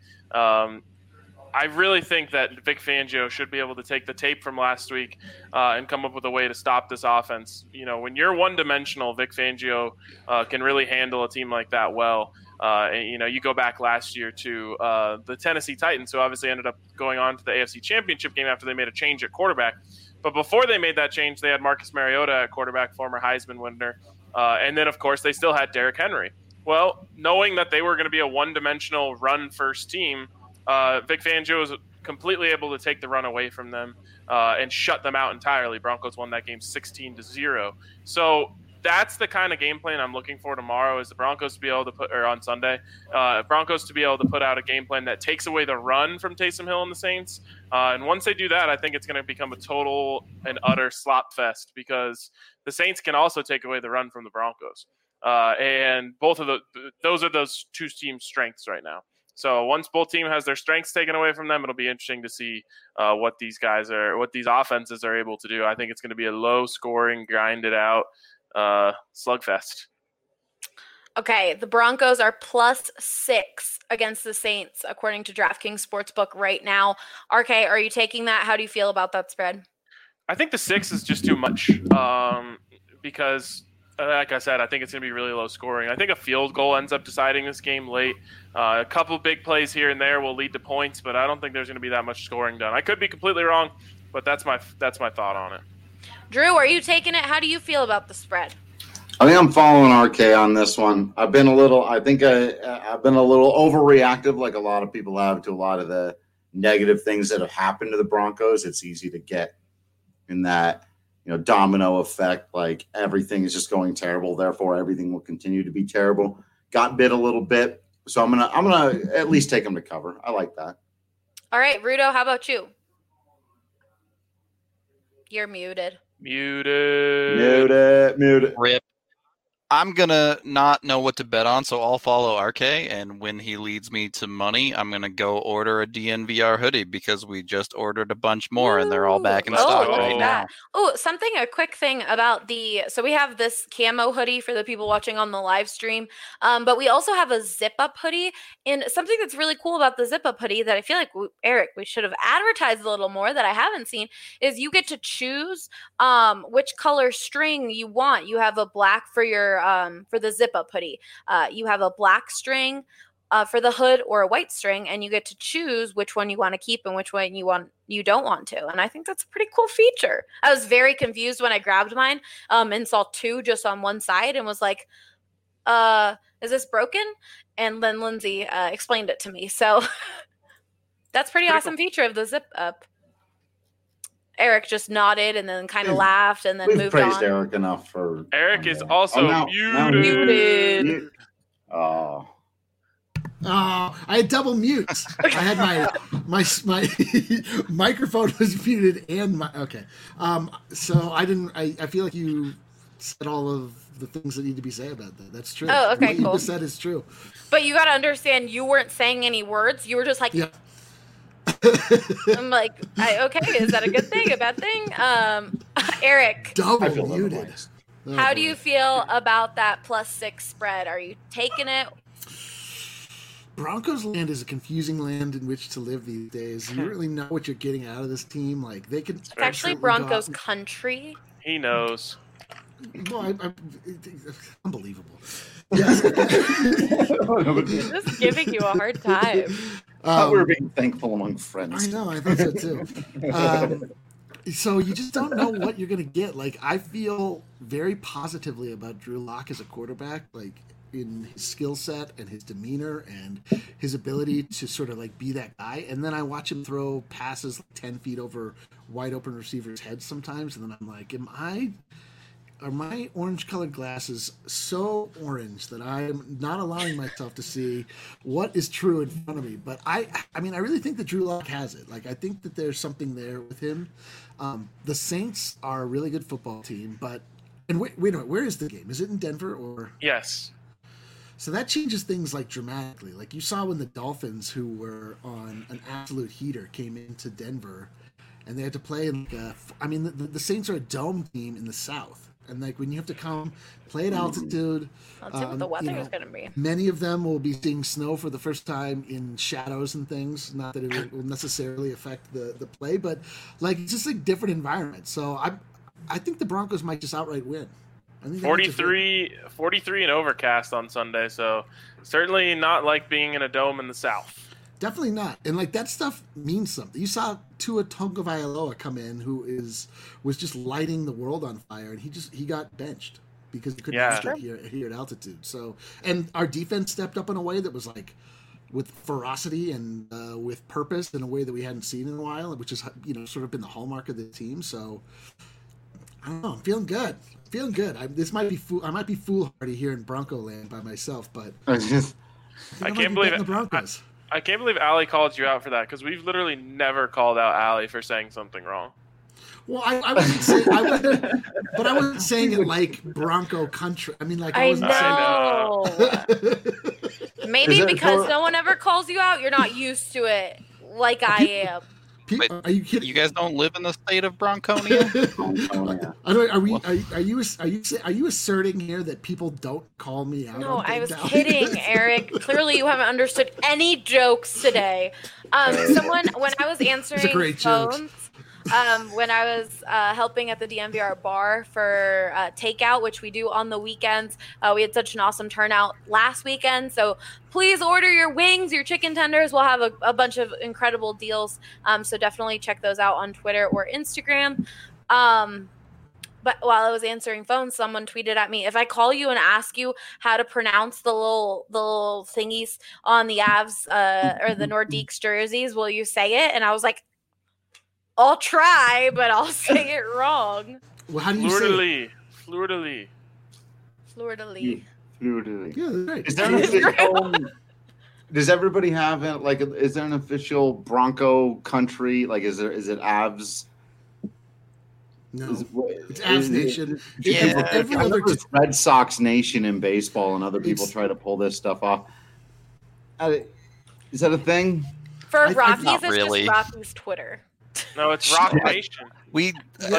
I really think that Vic Fangio should be able to take the tape from last week and come up with a way to stop this offense. When you're one-dimensional, Vic Fangio can really handle a team like that well. You go back last year to the Tennessee Titans, who obviously ended up going on to the AFC Championship game after they made a change at quarterback. But before they made that change, they had Marcus Mariota at quarterback, former Heisman winner. And then, of course, they still had Derrick Henry. Well, knowing that they were going to be a one-dimensional run-first team, Vic Fangio was completely able to take the run away from them and shut them out entirely. Broncos won that game 16-0. So that's the kind of game plan I'm looking for tomorrow, is the Broncos to be able to put, or on Sunday, Broncos to be able to put out a game plan that takes away the run from Taysom Hill and the Saints. And once they do that, I think it's going to become a total and utter slop fest, because the Saints can also take away the run from the Broncos. And both of those are those two teams' strengths right now. So once both team has their strengths taken away from them, it'll be interesting to see what these offenses are able to do. I think it's going to be a low-scoring, grinded-out slugfest. Okay, the Broncos are +6 against the Saints, according to DraftKings Sportsbook right now. RK, are you taking that? How do you feel about that spread? I think the 6 is just too much because, like I said, I think it's going to be really low scoring. I think a field goal ends up deciding this game late. A couple big plays here and there will lead to points, but I don't think there's going to be that much scoring done. I could be completely wrong, but that's my thought on it. Drew, are you taking it? How do you feel about the spread? I think I'm following RK on this one. I've been a little overreactive, like a lot of people have, to a lot of the negative things that have happened to the Broncos. It's easy to get in that, domino effect, like everything is just going terrible, therefore everything will continue to be terrible. Got bit a little bit, so I'm gonna at least take them to cover. I like that. All right, Rudo, how about you? You're muted. Muted. Rip. I'm going to not know what to bet on, so I'll follow RK, and when he leads me to money, I'm going to go order a DNVR hoodie, because we just ordered a bunch more, and they're all back in stock right now. Oh, a quick thing about so we have this camo hoodie for the people watching on the live stream, but we also have a zip-up hoodie, and something that's really cool about the zip-up hoodie that I feel like, Eric, we should have advertised a little more that I haven't seen, is you get to choose which color string you want. You have a black for your for the zip-up hoodie. You have a black string for the hood, or a white string, and you get to choose which one you want to keep and which one you don't want to. And I think that's a pretty cool feature. I was very confused when I grabbed mine and saw two just on one side and was like, is this broken? And then Lindsay explained it to me. So that's pretty awesome cool feature of the zip-up. Eric just nodded and then kind of laughed and then moved on. We've praised Eric enough for... Eric is also muted. Oh. Oh, I had double mutes. I had my microphone was muted and my okay. So I didn't. I feel like you said all of the things that need to be said about that. That's true. Oh, okay, what cool. you just said is true. But you got to understand, you weren't saying any words. You were just like. Yeah. I'm like, okay, is that a good thing, a bad thing? Eric, double muted. How do you feel about that +6 spread? Are you taking it? Broncos land is a confusing land in which to live these days. You don't really know what you're getting out of this team. Like they could. It's actually Broncos country. He knows. Well, unbelievable. Yes. Just giving you a hard time. I thought we were being thankful among friends. I know, I thought so too. So you just don't know what you're going to get. Like, I feel very positively about Drew Lock as a quarterback, like in his skill set and his demeanor and his ability to sort of like be that guy. And then I watch him throw passes like 10 feet over wide open receivers' heads sometimes. And then I'm like, are my orange-colored glasses so orange that I am not allowing myself to see what is true in front of me? But I mean, I really think that Drew Lock has it. Like, I think that there's something there with him. The Saints are a really good football team, and wait a minute, where is the game? Is it in Denver or? Yes. So that changes things like dramatically. Like you saw when the Dolphins, who were on an absolute heater, came into Denver, and they had to play in like the Saints are a dome team in the South. And like when you have to come play at altitude, let's see what the weather is going to be. Many of them will be seeing snow for the first time in shadows and things. Not that it will necessarily affect the play, but like it's just a different environment. So I think the Broncos might just outright win. 43 and overcast on Sunday, so certainly not like being in a dome in the South. Definitely not. And like that stuff means something. You saw Tua Tagovailoa come in, who was just lighting the world on fire, and he got benched. because you couldn't Yeah. handle it here at altitude. So, and our defense stepped up in a way that was like with ferocity and with purpose in a way that we hadn't seen in a while, which is sort of been the hallmark of the team. So I don't know. I'm feeling good. I might be foolhardy here in Bronco land by myself, but I can't believe the Broncos. I can't believe Allie called you out for that because we've literally never called out Allie for saying something wrong. Well, I wasn't saying, but I wasn't saying it like Bronco country. I mean, like I wasn't saying. Maybe because no one ever calls you out, you're not used to it, like I am. Wait, are you kidding? You guys don't live in the state of Bronconia? Are you asserting here that people don't call me out? No, I was kidding, Eric. Clearly, you haven't understood any jokes today. Someone, when I was answering phones, when I was helping at the DNVR bar for takeout, which we do on the weekends, we had such an awesome turnout last weekend. So please order your wings, your chicken tenders. We'll have a bunch of incredible deals. So definitely check those out on Twitter or Instagram. But while I was answering phones, someone tweeted at me, if I call you and ask you how to pronounce the little thingies on the Avs or the Nordiques jerseys, will you say it? And I was like, I'll try, but I'll say it wrong. Well, how do you say it? Fleur-de-lis. Yeah, right. Is there an official, does everybody have is there an official Bronco country? Like, is it Avs? No, it's Avs Nation. Every other Red Sox Nation in baseball, and other people try to pull this stuff off. Is that a thing? For Rockies, it's really. just Rockies Twitter. No, it's Rock Nation. We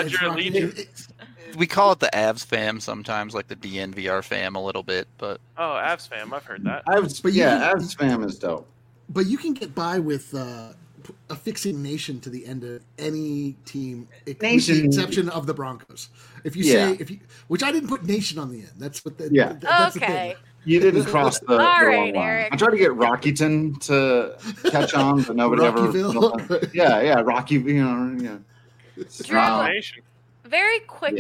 call it the Avs fam sometimes, like the DNVR fam a little bit, but Avs fam, I've heard that. Avs fam is dope. But you can get by with affixing Nation to the end of any team, with the exception of the Broncos. If you say which I didn't put Nation on the end. That's what that's okay. the thing. You didn't cross the right, wrong line. Eric. I tried to get Rockyton to catch on, but nobody ever. Yeah, Rocky. Rock Nation. Very quickly.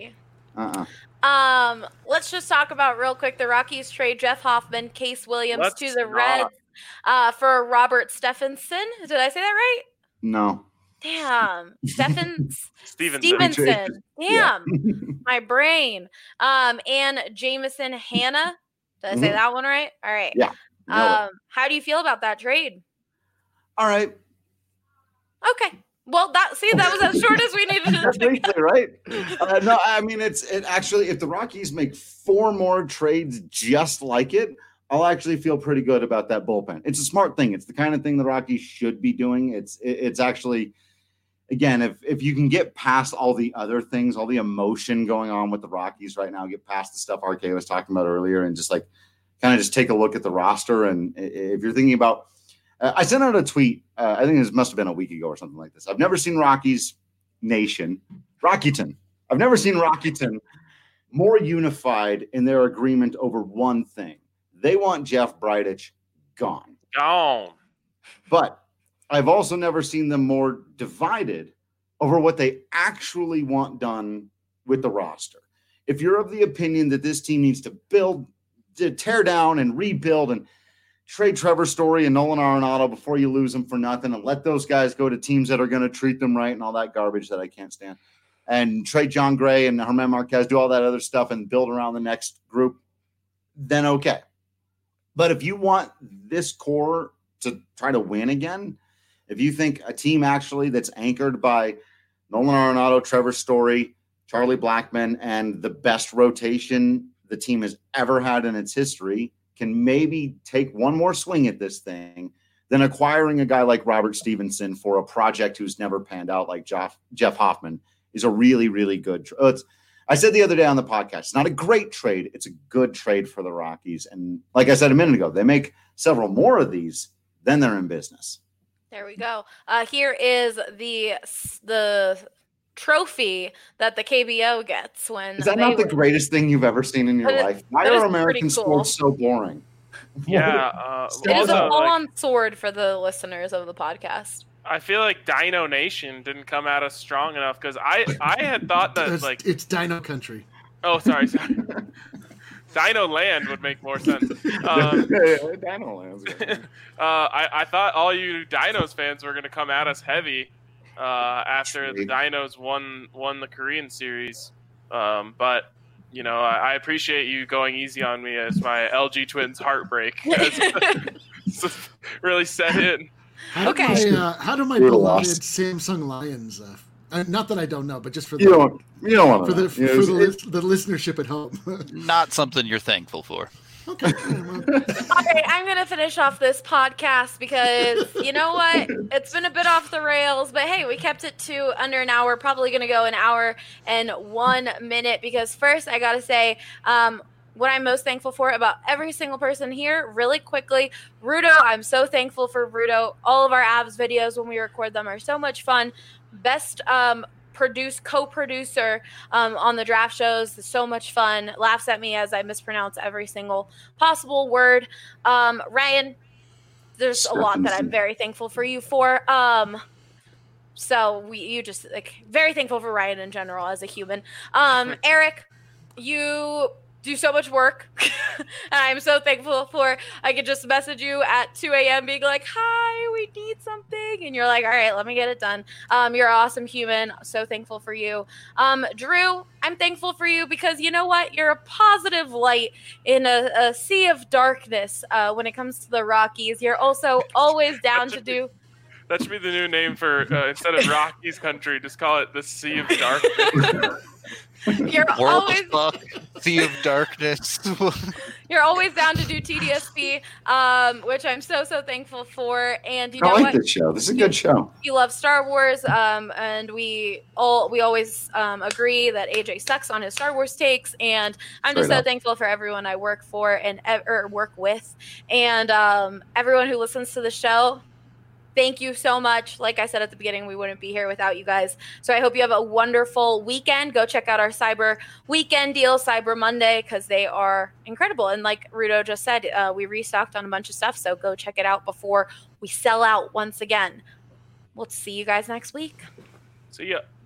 Yeah. Let's just talk about real quick the Rockies trade Jeff Hoffman, Case Williams to the Reds for Robert Stephenson. Did I say that right? No. Damn. Stevenson. Stevenson. Damn. My brain. And Jameson Hanna. Did I say that one right? All right. Yeah. How do you feel about that trade? All right. Okay. Well, that was as short as we needed it to be. Right? No, I mean, it actually, if the Rockies make 4 more trades just like it, I'll actually feel pretty good about that bullpen. It's a smart thing. It's the kind of thing the Rockies should be doing. It's actually, again, if you can get past all the other things, all the emotion going on with the Rockies right now, get past the stuff RK was talking about earlier, and just like kind of just take a look at the roster. And if you're thinking about, I sent out a tweet. I think this must have been a week ago or something like this. I've never seen Rockyton. I've never seen Rockyton more unified in their agreement over one thing. They want Jeff Bridich gone. But I've also never seen them more divided over what they actually want done with the roster. If you're of the opinion that this team needs to tear down and rebuild and trade Trevor Story and Nolan Arenado before you lose them for nothing, and let those guys go to teams that are going to treat them right and all that garbage that I can't stand, and trade John Gray and Germán Marquez, do all that other stuff and build around the next group, then okay. But if you want this core to try to win again, if you think a team actually that's anchored by Nolan Arenado, Trevor Story, Charlie Blackmon, and the best rotation the team has ever had in its history can maybe take one more swing at this thing, then acquiring a guy like Robert Stephenson for a project who's never panned out like Jeff Hoffman is a really, really good I said the other day on the podcast, it's not a great trade. It's a good trade for the Rockies. And like I said a minute ago, they make several more of these, then they're in business. There we go. Here is the trophy that the KBO gets when. Is that not the greatest thing you've ever seen in your life? Why are American sports so boring? Yeah. It is a full-on sword for the listeners of the podcast. I feel like Dino Nation didn't come at us strong enough because I had thought that it's Dino Country. Oh, sorry. Dino Land would make more sense. Dino Land's good. I thought all you Dinos fans were going to come at us heavy after the Dinos won the Korean series. But, you know, I appreciate you going easy on me as my LG Twins heartbreak really set in. How do my Brutal beloved loss. Samsung Lions? Not that I don't know, but just for You don't want for to the listenership at home. Not something you're thankful for. Okay. All right, I'm going to finish off this podcast because you know what? It's been a bit off the rails, but hey, we kept it to under an hour. Probably going to go an hour and 1 minute because first I got to say what I'm most thankful for about every single person here really quickly. Rudo, I'm so thankful for Rudo. All of our abs videos when we record them are so much fun. Best co-producer on the draft shows. It's so much fun. Laughs at me as I mispronounce every single possible word. Ryan, there's a lot that I'm very thankful for you for. You just very thankful for Ryan in general as a human. Eric, you do so much work, and I'm so thankful for I could just message you at 2 a.m. being like, hi, we need something, and you're like, all right, let me get it done. You're an awesome human. So thankful for you. Drew, I'm thankful for you because you know what? You're a positive light in a sea of darkness when it comes to the Rockies. You're also always down to do... That should be the new name for, instead of Rockies country, just call it the Sea of Darkness. You're always Sea of Darkness. You're always down to do TDSP, which I'm so thankful for. And you know I like what? this show. This is a good show. You love Star Wars, and we always agree that AJ sucks on his Star Wars takes. And I'm just so thankful for everyone I work for and or work with, and everyone who listens to the show. Thank you so much. Like I said at the beginning, we wouldn't be here without you guys. So I hope you have a wonderful weekend. Go check out our Cyber Weekend deals, Cyber Monday, because they are incredible. And like Rudo just said, we restocked on a bunch of stuff. So go check it out before we sell out once again. We'll see you guys next week. See ya.